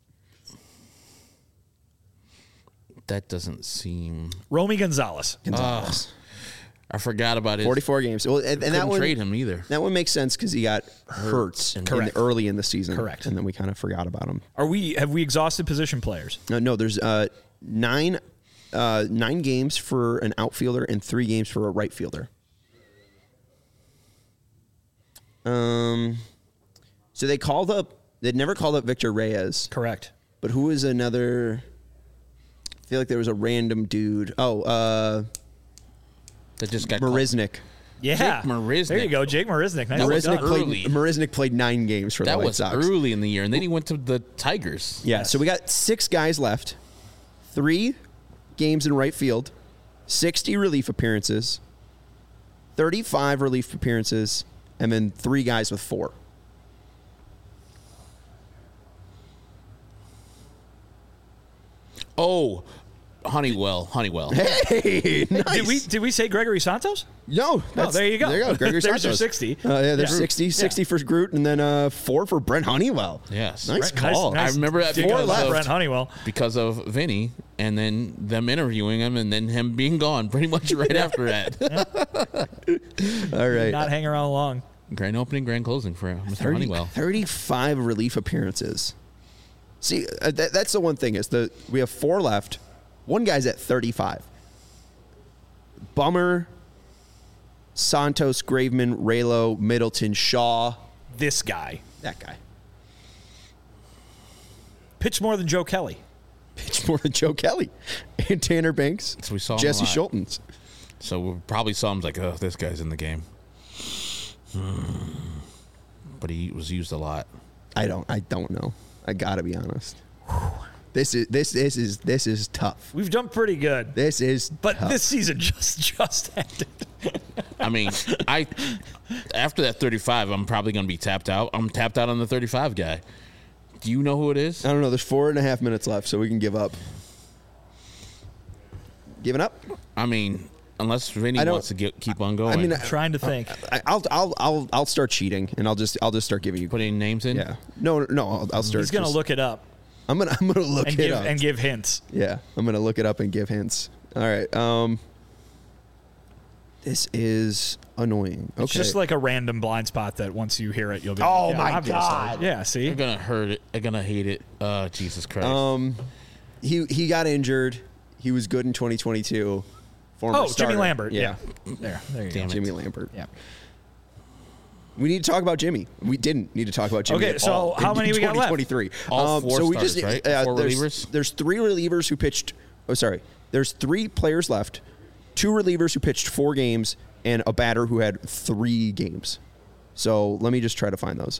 That doesn't seem. Romy Gonzalez. I forgot about it. 44 games. Well, and that one trade him either. That one makes sense because he got hurt early in the season. Correct. And then we kind of forgot about him. Have we exhausted position players? No. There's 9 games for an outfielder and 3 games for a right fielder. So they'd never called up Victor Reyes. Correct. But who was another? I feel like there was a random dude. That just got Marisnik. Yeah. Jake Marisnik. There you go, Jake Marisnik. Nice Marisnik played 9 games for the White Sox. That was early in the year, and then he went to the Tigers. Yeah, so we got 6 guys left. 3 games in right field, 60 relief appearances, 35 relief appearances, and then 3 guys with 4. Oh, Honeywell. Hey, nice. Did we say Gregory Santos? No. There you go. There you go. Gregory There's Santos. your 60. There's 60 for Groot, and then 4 for Brent Honeywell. Yes. Nice call. Nice. I remember that Brent Honeywell. because of Vinny, and then them interviewing him, and then him being gone pretty much right after that. All right. Did not hang around long. Grand opening, grand closing for Mr. Honeywell. 35 relief appearances. See, that's the one thing is we have 4 left. One guy's at 35. Bummer, Santos, Graveman, Raylo, Middleton, Shaw. This guy. That guy. Pitched more than Joe Kelly. Pitched more than Joe Kelly. And Tanner Banks. So we saw him Jesse a lot. Schultens. So we probably saw him like, oh, this guy's in the game. But he was used a lot. I don't know. I gotta be honest. This is tough. We've done pretty good. This is But tough. this season just ended. I mean, after that 35, I'm probably going to be tapped out. I'm tapped out on the 35 guy. Do you know who it is? I don't know. There's 4.5 minutes left, so we can give up. Giving up? I mean, unless Vinny wants to keep on going. I mean, I'm trying to think. I'll start cheating, and I'll just start giving you. putting names in. Yeah. No. I'll start. He's going to look it up. I'm gonna look it up and give hints. Yeah, I'm gonna look it up and give hints. All right. This is annoying. Okay. It's just like a random blind spot that once you hear it, you'll be. Oh like, my obviously. God. Yeah. See. They're gonna hurt it. They're gonna hate it. Jesus Christ. He got injured. He was good in 2022. Former starter. Jimmy Lambert. Yeah. There you Damn go. it. Jimmy Lambert. Yeah. We need to talk about Jimmy. We didn't need to talk about Jimmy. Okay, at so all how in many we got left? 2023. All 4 so we starters, just right? 4 relievers? There's 3 relievers who pitched. Oh, sorry. There's 3 players left. 2 relievers who pitched 4 games, and a batter who had 3 games. So let me just try to find those.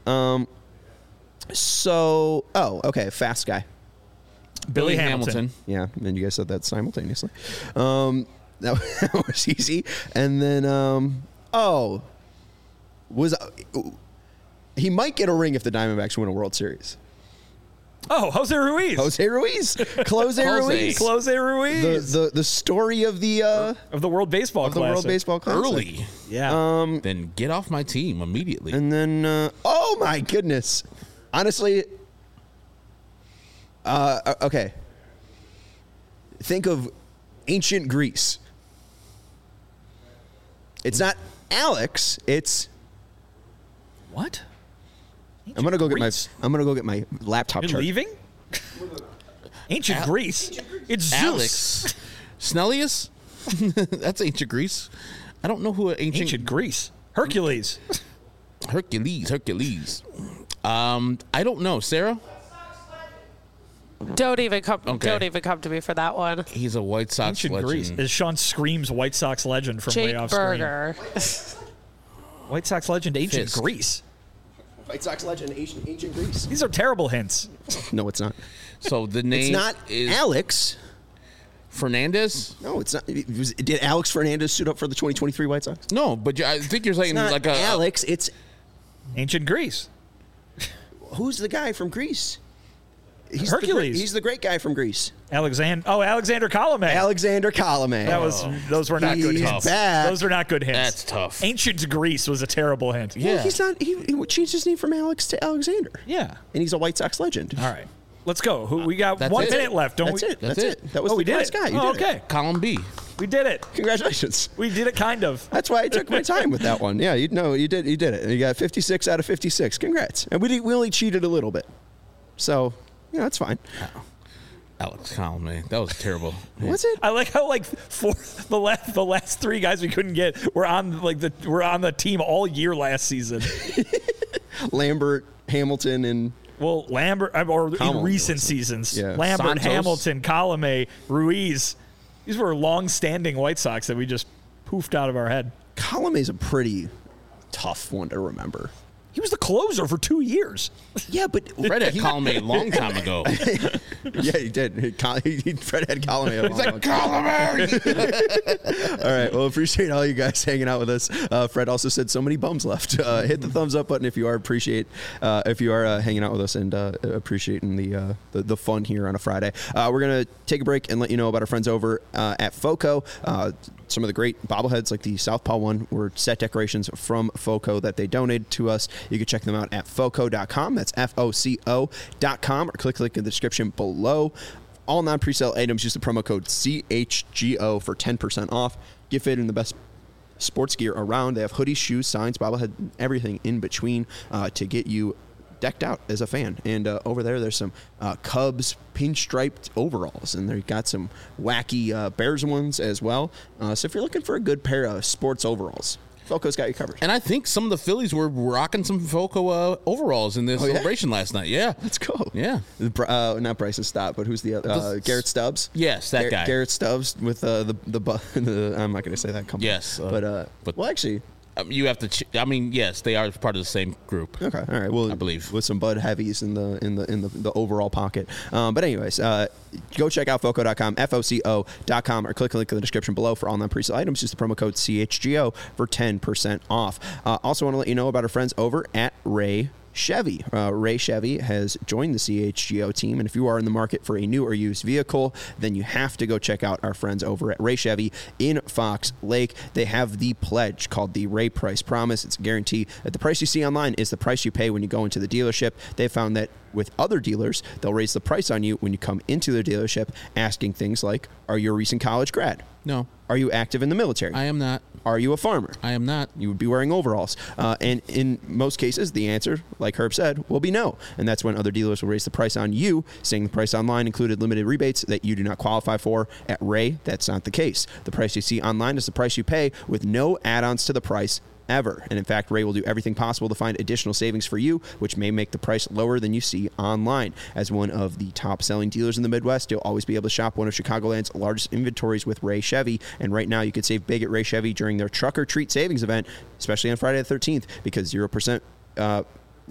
Okay, fast guy. Billy Hamilton. Yeah, and you guys said that simultaneously. That was easy. And then, he might get a ring if the Diamondbacks win a World Series. Oh, Jose Ruiz. Close Ruiz. Jose Ruiz. The story of the World Baseball Classic. The World Baseball Classic. Early. Yeah. Then get off my team immediately. And then, oh my goodness. Honestly, okay. Think of ancient Greece. It's not Alex. It's what? I'm gonna go get my laptop. You're leaving? Ancient Greece. It's Zeus. Alex Snellius. That's ancient Greece. I don't know who ancient Greece. Hercules. Hercules. I don't know. Sarah? Don't even come to me for that one. He's a White Sox ancient legend. Greece. Is Sean Scream's White Sox legend from Jake way off Berger. screen. White Sox legend, ancient Fisk. Greece. White Sox legend, ancient Greece. These are terrible hints. No, it's not. So the name It's not is Alex Fernandez? No, it's not. Did Alex Fernandez suit up for the 2023 White Sox? No, but I think you're saying It's not like a Alex. It's ancient Greece. Who's the guy from Greece? He's Hercules. He's the great guy from Greece. Alexander Colomé. Alexander Colomé. Those were not good hints. Bad. Those were not good hints. That's tough. Ancient Greece was a terrible hint. Well, he's not. He changed his name from Alex to Alexander. Yeah. And he's a White Sox legend. All right. Let's go. We got That's 1 it. minute left, don't That's we? it. That's That's it. That was the we did last it. guy. You Oh, did okay. it. column B. We did it. Congratulations. We did it kind of. That's why I took my time with that one. Yeah, you did it. You got 56 out of 56. Congrats. And we only cheated a little bit. So, yeah, that's fine. Alex Colomé. That was terrible. Was it? I like how the last three guys we couldn't get were on the team all year last season. Lambert, Hamilton, and Well, Lambert or Colomé. in recent seasons, Yeah. Lambert, Santos. Hamilton, Colomé, Ruiz. These were long-standing White Sox that we just poofed out of our head. Colomé is a pretty tough one to remember. He was the closer for 2 years. Yeah, but Fred had Colomé a long time ago. yeah, he did. Fred had Colomé. He's like, Colomé! All right. Well, appreciate all you guys hanging out with us. Fred also said so many bums left. Hit the thumbs up button if you are hanging out with us and appreciating the fun here on a Friday. We're gonna take a break and let you know about our friends over at FOCO. Some of the great bobbleheads like the Southpaw one were set decorations from FOCO that they donated to us. You can check them out at FOCO.com. That's FOCO.com, or click the link in the description below. All non-presale items use the promo code CHGO for 10% off. Get fit in the best sports gear around. They have hoodies, shoes, signs, bobblehead, everything in between to get you decked out as a fan. And over there's some Cubs pinstriped overalls, and they've got some wacky Bears ones as well. So if you're looking for a good pair of sports overalls, FOCO's got you covered. And I think some of the Phillies were rocking some FOCO overalls in this celebration last night. Yeah. Let's go. Yeah. Not Bryson Stott, but who's the other? Garrett Stubbs. Yes, that guy. Garrett Stubbs with the I'm not going to say that company. Yes, but well, actually. You have to. Yes, they are part of the same group. Okay, all right. Well, I believe with some Bud Heavies in the overall pocket. But anyways, go check out FOCO.com, FOCO.com, or click the link in the description below for all non-presale items. Use the promo code CHGO for 10% off. Also, want to let you know about our friends over at Ray Chevy. Ray Chevy has joined the CHGO team, and if you are in the market for a new or used vehicle, then you have to go check out our friends over at Ray Chevy in Fox Lake. They have the pledge called the Ray Price Promise. It's a guarantee that the price you see online is the price you pay when you go into the dealership. They found that with other dealers, they'll raise the price on you when you come into their dealership, asking things like, are you a recent college grad? No. Are you active in the military? I am not. Are you a farmer? I am not. You would be wearing overalls. And in most cases, the answer, like Herb said, will be no. And that's when other dealers will raise the price on you, saying the price online included limited rebates that you do not qualify for. At Ray, that's not the case. The price you see online is the price you pay with no add-ons to the price ever. And in fact, Ray will do everything possible to find additional savings for you, which may make the price lower than you see online. As one of the top selling dealers in the Midwest, you'll always be able to shop one of Chicagoland's largest inventories with Ray Chevy. And right now you could save big at Ray Chevy during their Truck or Treat savings event, especially on Friday the 13th, because 0%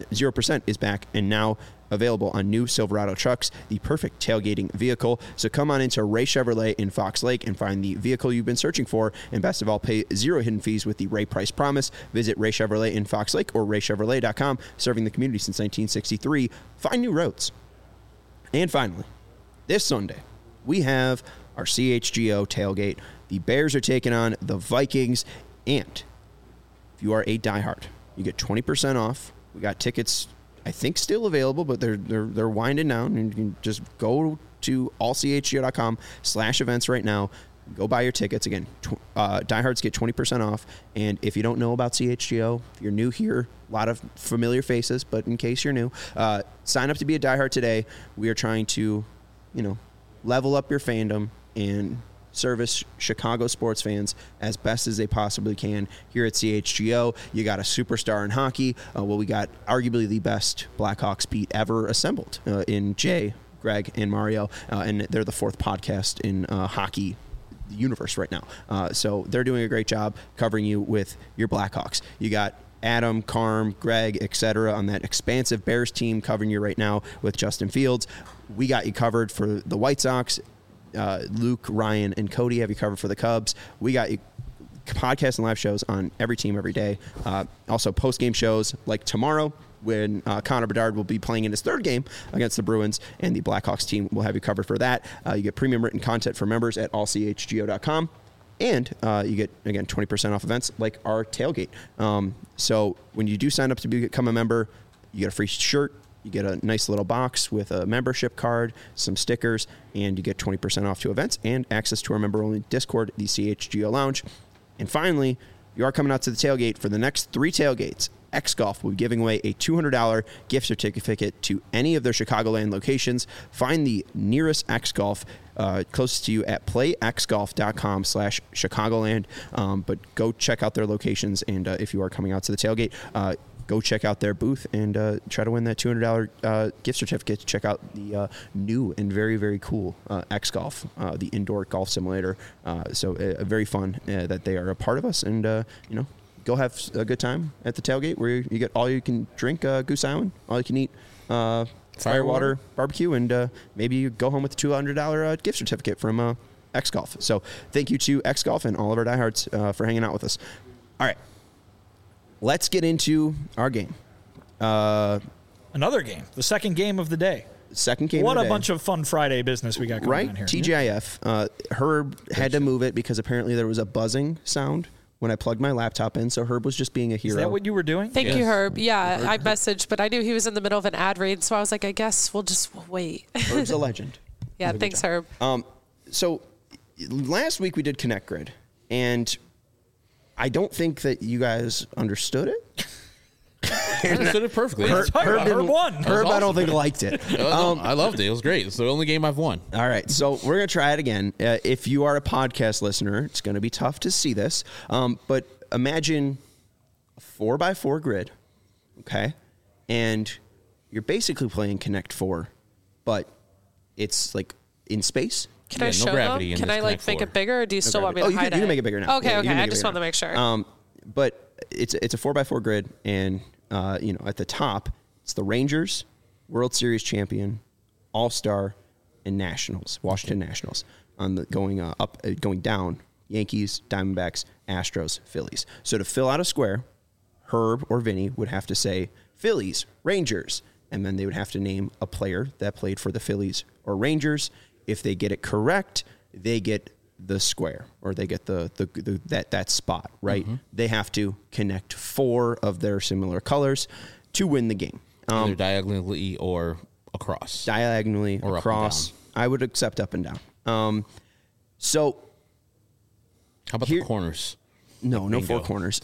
0% is back and now available on new Silverado trucks, the perfect tailgating vehicle. So come on into Ray Chevrolet in Fox Lake and find the vehicle you've been searching for. And best of all, pay 0 hidden fees with the Ray Price Promise. Visit Ray Chevrolet in Fox Lake or raychevrolet.com, serving the community since 1963. Find new roads. And finally, this Sunday, we have our CHGO tailgate. The Bears are taking on the Vikings. And if you are a diehard, you get 20% off. We got tickets, I think, still available, but they're winding down. And you can just go to allchgo.com/events right now. Go buy your tickets. Again, diehards get 20% off. And if you don't know about CHGO, if you're new here, a lot of familiar faces, but in case you're new, sign up to be a diehard today. We are trying to, level up your fandom and service Chicago sports fans as best as they possibly can here at CHGO. You got a superstar in hockey. We got arguably the best Blackhawks beat ever assembled in Jay, Greg, and Mario, and they're the 4th podcast in hockey universe right now. So they're doing a great job covering you with your Blackhawks. You got Adam, Carm, Greg, etc. on that expansive Bears team covering you right now with Justin Fields. We got you covered for the White Sox. Luke, Ryan, and Cody have you covered for the Cubs. We got you podcasts and live shows on every team every day. Also post-game shows like tomorrow when Connor Bedard will be playing in his 3rd game against the Bruins, and the Blackhawks team will have you covered for that. You get premium written content for members at allchgo.com. And you get, again, 20% off events like our tailgate. So when you do sign up to become a member, you get a free shirt. You get a nice little box with a membership card, some stickers, and you get 20% off to events and access to our member-only Discord, the CHGO Lounge. And finally, you are coming out to the tailgate for the next 3 tailgates. X-Golf will be giving away a $200 gift certificate to any of their Chicagoland locations. Find the nearest X-Golf closest to you at playxgolf.com/Chicagoland. But go check out their locations, and if you are coming out to the tailgate, go check out their booth and try to win that $200 gift certificate to check out the new and very, very cool X-Golf, the indoor golf simulator. So very fun that they are a part of us, and go have a good time at the tailgate where you get all you can drink Goose Island, all you can eat Firewater barbecue, and maybe you go home with a $200 gift certificate from X-Golf. So thank you to X-Golf and all of our diehards for hanging out with us. All right. Let's get into our game. Another game. The second game of the day. Second game What of the a day. bunch of fun Friday business we got going on here. TGIF. Herb had to move it because apparently there was a buzzing sound when I plugged my laptop in, so Herb was just being a hero. Is that what you were doing? Thank you, Herb. Yeah, I messaged, but I knew he was in the middle of an ad read, so I was like, I guess we'll just wait. Herb's a legend. Yeah, thanks, Herb. So last week we did Connect Grid, and I don't think that you guys understood it. I understood it perfectly. Herb won. Herb, I don't think liked it. I loved it. It was great. It's the only game I've won. All right, so we're going to try it again. If you are a podcast listener, it's going to be tough to see this, but imagine a 4x4 grid, okay? And you're basically playing Connect 4, but it's like in space. Can I show them? Can I make it bigger, or do you still want me to hide it? You can make it bigger now. Okay, I just want to make sure. But it's a 4x4 grid, and at the top, it's the Rangers, World Series champion, All-Star, and Nationals, Washington Nationals. On the going down, Yankees, Diamondbacks, Astros, Phillies. So to fill out a square, Herb or Vinny would have to say Phillies, Rangers, and then they would have to name a player that played for the Phillies or Rangers. If they get it correct, they get the square, or they get that spot, right? Mm-hmm. They have to connect 4 of their similar colors to win the game. Either diagonally or across. Diagonally or across. I would accept up and down. So how about the corners? No 4 corners.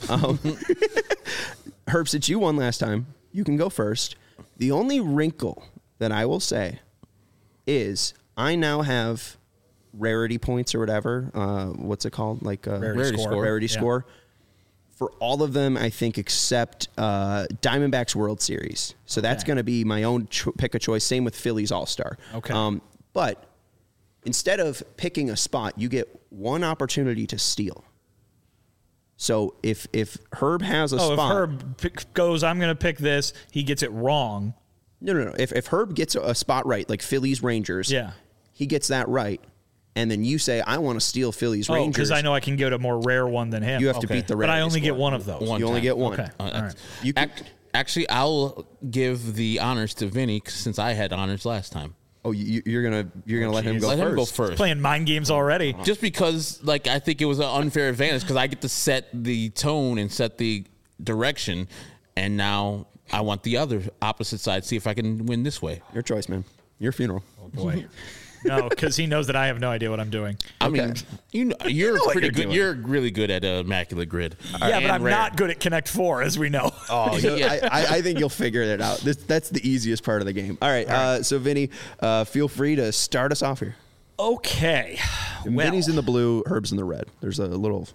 Herb, since you won last time, you can go first. The only wrinkle that I will say is I now have rarity points or whatever. What's it called? Like rarity score. For all of them, I think, except Diamondbacks World Series. So that's going to be my own pick of choice. Same with Phillies All-Star. Okay. But instead of picking a spot, you get one opportunity to steal. So if Herb has a If spot, Herb goes, I'm going to pick this, he gets it wrong. no. If Herb gets a spot right, like Phillies Rangers, Yeah. he gets that right, and then you say I want to steal Phillies Rangers, because I know I can get a more rare one than him. you have to Okay. beat the but I rarity only get score. one of those. One You only time. get one. Okay. All right. You can, Actually, I'll give the honors to Vinny since I had honors last time. you're gonna let him go Let first. him go first. Playing mind games already. Just because, like, I think it was an unfair advantage because I get to set the tone and set the direction, and now I want the other opposite side. See if I can win this way. Your choice, man. Your funeral. Oh, boy. No, because he knows that I have no idea what I'm doing. I mean, you're what pretty you're good. doing. You're really good at Immaculate Grid. Yeah, but I'm not good at Connect 4, as we know. I think you'll figure it out. That's the easiest part of the game. All right. So, Vinny, feel free to start us off here. Okay. Well, Vinny's in the blue, Herb's in the red. There's a little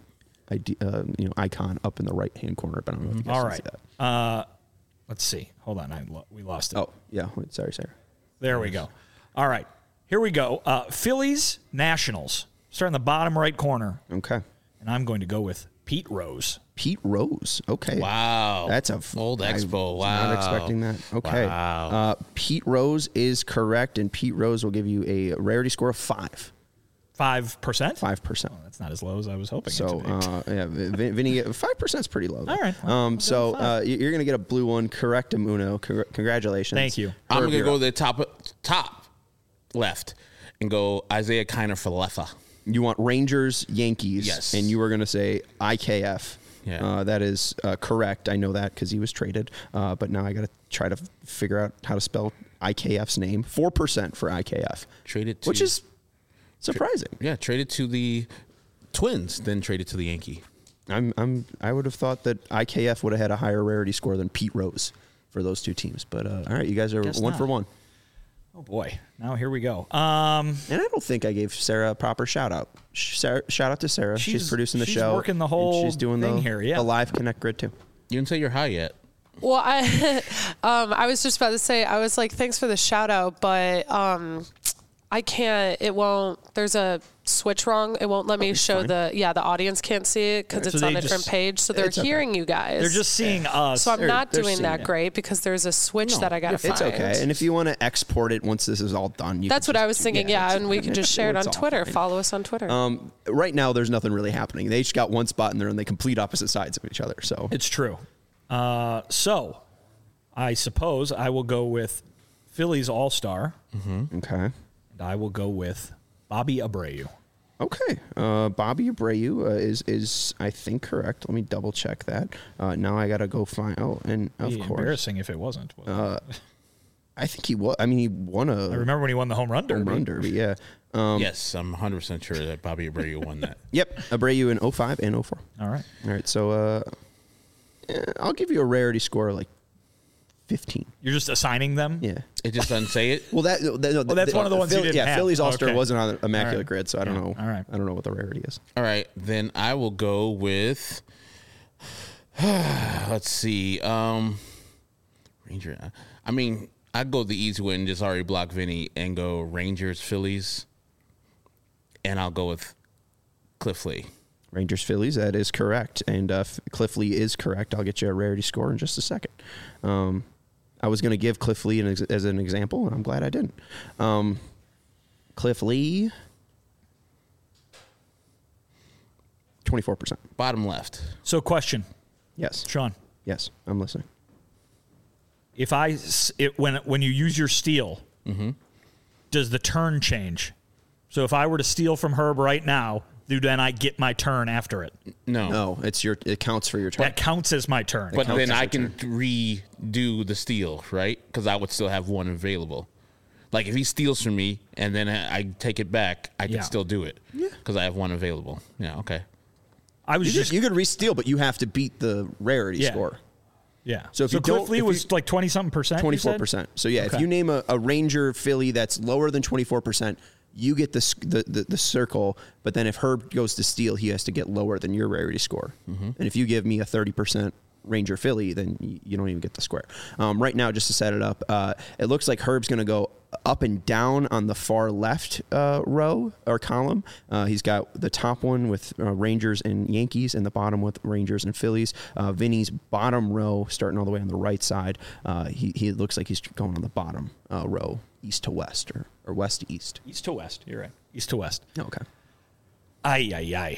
icon up in the right-hand corner, but I don't know if you guys all can right. see that. Let's see. Hold on. We lost it. Oh, yeah. Wait, sorry. There we go. All right. Here we go. Phillies Nationals. Start in the bottom right corner. Okay. And I'm going to go with Pete Rose. Pete Rose. Okay. Wow. That's a old expo. was Wow. Not expecting that. Okay. Wow. Pete Rose is correct, and Pete Rose will give you a rarity score of 5. 5%? 5%. That's not as low as I was hoping So, it to be. yeah, Vinny, 5% is pretty low. Though. All right. Well, You're going to get a blue one. Correct, Amuno. Congratulations. Thank you. I'm Herb, going to you're go up. the top left and go Isaiah Kiner for Leffa. You want Rangers, Yankees. Yes. And you were going to say IKF. Yeah. That is correct. I know that because he was traded. But now I got to try to figure out how to spell IKF's name. 4% for IKF. Traded to, Which is surprising. Yeah, traded to the Twins, then traded to the Yankee. I would have thought that IKF would have had a higher rarity score than Pete Rose for those two teams. But all right, you guys are Guess one not. for one. Oh, boy. Now here we go. And I don't think I gave Sarah a proper shout out. Shout out to Sarah. She's producing the she's show. working the and whole she's doing thing the, here, yeah. the live Connect Grid too. You didn't say you're high yet. Well, I was just about to say, I was like, thanks for the shout out, but I can't, it won't, there's a switch wrong. It won't let me show fine. the audience can't see it because So it's on they a different just- page. So they're It's okay. hearing you guys. They're just seeing us. so I'm not they're doing seeing that it. great because there's a switch that I got to find. It's okay. And if you want to export it once this is all done, you That's can what I just was do- thinking. Yeah, and we can just share it on it's all Twitter. fine. Follow us on Twitter. Right now, there's nothing really happening. They each got one spot and they're on the complete opposite sides of each other. So It's true. So I suppose I will go with Phillies All-Star, okay. and I will go with Bobby Abreu. Okay. Bobby Abreu is I think correct. Let me double check that. Now I gotta go find. Oh, and of Be course, embarrassing if it wasn't. I think he was. I mean, he won a I remember when he won the home run derby. home run derby. Yeah. Yes, I'm 100% sure that Bobby Abreu won that. Yep. Abreu in 05 and 04. All right. All right. So I'll give you a rarity score of like 15. You're just assigning them? Yeah. It just doesn't say it. Well, that's one of the ones you didn't Yeah, have. Phillies All Star Okay. wasn't on the Immaculate All right. Grid, so I don't know. All right. I don't know what the rarity is. All right, then I will go with. Let's see. Ranger. I mean, I'd go the easy way and just already block Vinny and go Rangers, Phillies, and I'll go with Cliff Lee. Rangers Phillies, that is correct. And Cliff Lee is correct. I'll get you a rarity score in just a second. I was going to give Cliff Lee as an example, and I'm glad I didn't. Cliff Lee, 24%. Bottom left. So, question, Yes. Sean. Yes, I'm listening. If when you use your steal, does the turn change? So if I were to steal from Herb right now, then I get my turn after it. No. No, it counts for your turn. That counts as my turn. But counts then as I your can redo the steal, right? Because I would still have one available. Like if he steals from me and then I take it back, I can Yeah. still do it. Yeah. Because I have one available. Yeah, okay. I was just You could re-steal, but you have to beat the rarity Yeah. score. yeah. So if you Cliff don't- Lee if was you- like 20-something%. 24%. So yeah, if Okay. you name a Ranger Philly that's lower than 24%, you get the circle. But then if Herb goes to steal, he has to get lower than your rarity score. And if you give me a 30% Ranger Philly, then you don't even get the square. Right now, just to set it up, it looks like Herb's going to go up and down on the far left row or column. He's got the top one with Rangers and Yankees and the bottom with Rangers and Phillies. Vinny's bottom row, starting all the way on the right side, he looks like he's going on the bottom row, east to west or west to east. East to west. You're right. East to west. Okay. Ay.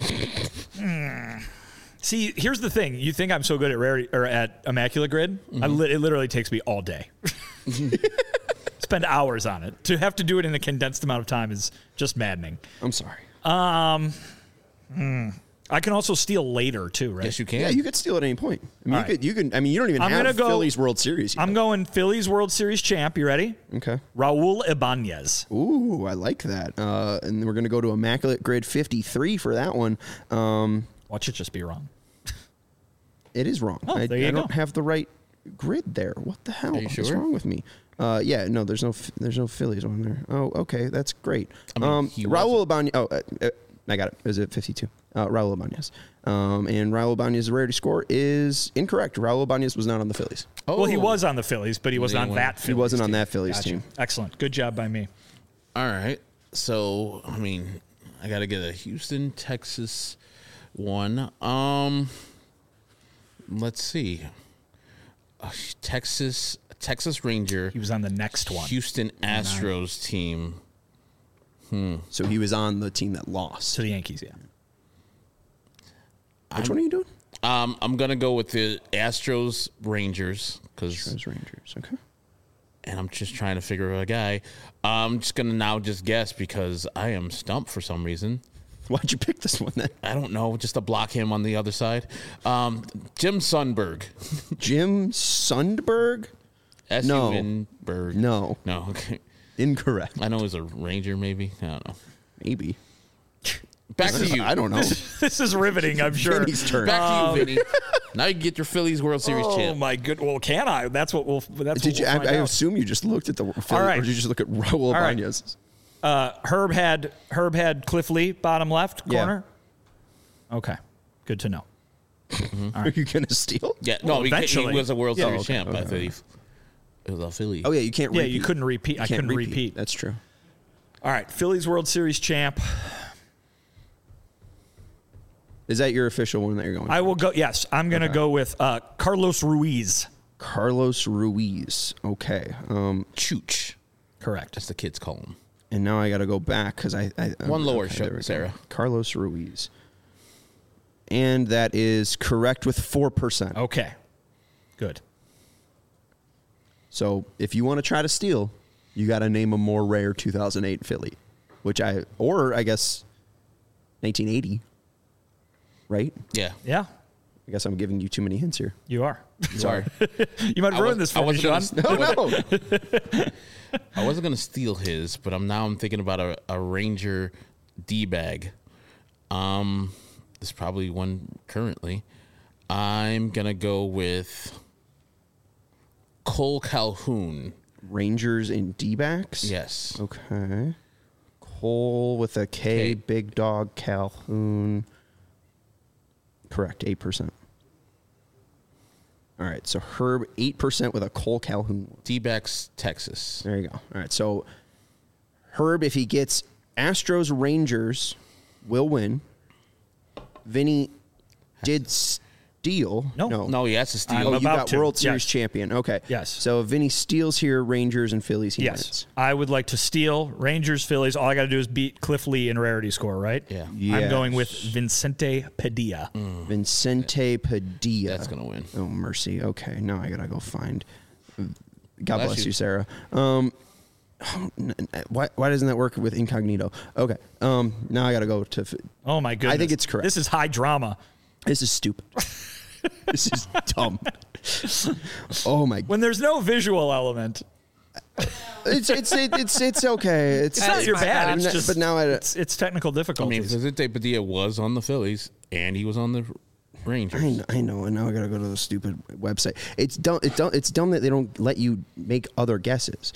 See, here's the thing. You think I'm so good at rarity or at Immaculate Grid? Mm-hmm. It literally takes me all day. Spend hours on it. To have to do it in a condensed amount of time is just maddening. I'm sorry. I can also steal later too, right? Yes, you can. Yeah, you could steal at any point. I mean, All right. you can. I mean, you don't even have Phillies World Series yet. I'm going Phillies World Series champ. You ready? Okay. Raul Ibanez. Ooh, I like that. And we're going to go to Immaculate Grid 53 for that one. Watch it just be wrong. It is wrong. Oh, I there you don't go. have the right grid there. What the hell? Are you What's sure? wrong with me? Yeah, no, there's no Phillies on there. Oh, okay, that's great. I mean, he Raul Ibanez. Oh, I got it. It was at 52. Raul Ibanez. And Raul Ibanez's rarity score is incorrect. Raul Ibanez was not on the Phillies. Oh. Well, he was on the Phillies, but he wasn't on Anyway. that Phillies He wasn't on team. that Phillies Gotcha. team. Excellent. Good job by me. All right. So, I mean, I got to get a Houston, Texas one. Let's see. Texas Ranger, He was on the next one. Houston Astros team. So he was on the team that lost. To the Yankees, yeah. Which one are you doing? I'm gonna go with the Astros Rangers Those Rangers. Okay. and I'm just trying to figure out a guy. I'm just gonna now just guess because I am stumped for some reason. Why'd you pick this one then? I don't know, just to block him on the other side. Jim Sundberg. Jim Sundberg? Sundberg. No. No. Okay. Incorrect. I know he's a Ranger, maybe. I don't know. Maybe. Back to you. I don't know. This is riveting, I'm sure. Vinny's turn. Back to you, Vinny. Now you can get your Phillies World Series Oh champ. my good. Well, can I? That's what we'll. That's Did you? what we'll find I out. assume you just looked at the Phillies, right. or did you just look at Raul right. Ibanez? Herb had Cliff Lee, bottom left Yeah. corner. Okay, good to know. Are you gonna steal? Yeah, no, Well, he eventually. was a World Yeah, Series okay, champ, I okay. believe. It was a Philly. Oh yeah, you can't. Yeah, repeat. you couldn't repeat. I Can't couldn't repeat. That's true. All right, Phillies World Series champ. Is that your official one that you're going? I will go. Yes, I'm going to go with Carlos Ruiz. Carlos Ruiz. Okay. Chooch. Correct. That's the kids call him. And now I got to go back because I One lower, there we go. Sarah. Carlos Ruiz. And that is correct with 4%. Okay, good. So if you want to try to steal, you got to name a more rare 2008 Philly, or I guess 1980. Right? Yeah. Yeah, I guess I'm giving you too many hints here. you are. Sorry. You might ruin this for me, Sean. No. I wasn't going to steal his, but I'm thinking about a Ranger D-bag. There's probably one currently. I'm going to go with Cole Calhoun. Rangers and D-backs? Yes. Okay. Cole with a K, K. Big Dog, Calhoun. Correct, 8%. All right, so Herb, 8% with a Cole Calhoun. D-backs, Texas. There you go. All right, so Herb, if he gets Astros Rangers, will win. Vinny did steal. No, he has to steal. I'm Oh, you about got to. World Series Yes. champion. Okay. Yes. So if Vinny steals here, Rangers and Phillies, he Yes, wins. I would like to steal Rangers, Phillies. All I got to do is beat Cliff Lee in rarity score, right? Yeah. I'm going with Yes. Vincente Padilla. Vicente Padilla. That's going to win. Oh, mercy. Okay, now I got to go find. God Bless bless you. you, Sarah. Why doesn't that work with incognito? Okay. Now I got to go to. Oh my goodness! I think it's correct. This is high drama. This is stupid. This is dumb. Oh my! When there's no visual element, It's okay. It's it's not bad. It's just, but now it's technical I mean, difficulties. Vicente Padilla was on the Phillies, and he was on the Rangers. I know, and now I gotta go to the stupid website. It's dumb. It's dumb that they don't let you make other guesses.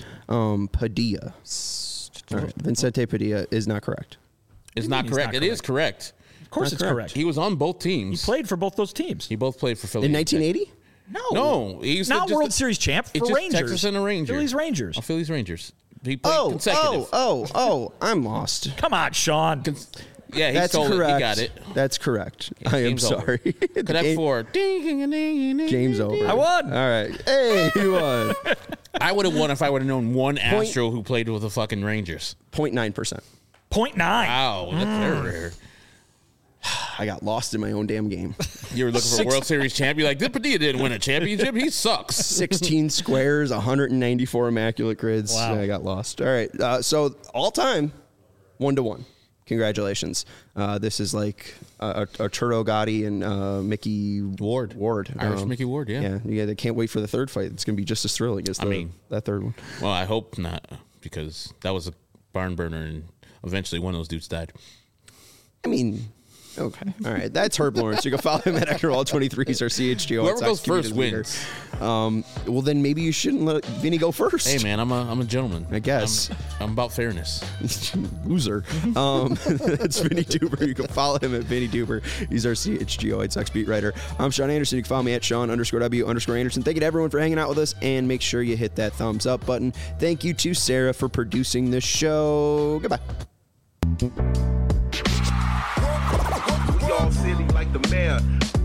Padilla. All right. Vicente Padilla is not correct. It's not He's correct. not It is correct. Of course, it's correct. He was on both teams. He played for both those teams. He both played for Philly. In 1980? No, he's not World Series champ for Rangers. Texas and the Rangers. Phillies Rangers. Oh, Phillies Rangers. He played consecutive. I'm lost. Come on, Sean. Yeah, he That's stole correct. it. He got it. That's correct. I am sorry. Connect 4. Game's over. I won. All right. Hey, you won. I would have won if I would have known one Astro who played with the fucking Rangers. 0.9%. 0.9. Wow, that's very rare. I got lost in my own damn game. You were looking for a World Series champ. You're like, this Padilla didn't win a championship. He sucks. 16 squares, 194 immaculate grids. Wow. I got lost. All right. So all time, 1-1. Congratulations. This is like Arturo Gotti and Mickey Ward. Irish Mickey Ward, yeah. Yeah, they can't wait for the third fight. It's going to be just as thrilling as that third one. Well, I hope not, because that was a barn burner, and eventually one of those dudes died. I mean, okay. All right. That's Herb Lawrence. You can follow him at Eckerwall23. He's our CHGO. Whoever goes first wins. Well, then maybe you shouldn't let Vinny go first. Hey, man, I'm a gentleman. I guess. I'm about fairness. Loser. That's Vinny Duber. You can follow him at Vinny Duber. He's our CHGO White Sox beat writer. I'm Sean Anderson. You can follow me at Sean_W_Anderson. Thank you to everyone for hanging out with us, and make sure you hit that thumbs up button. Thank you to Sarah for producing the show. Goodbye. We all silly like the mayor.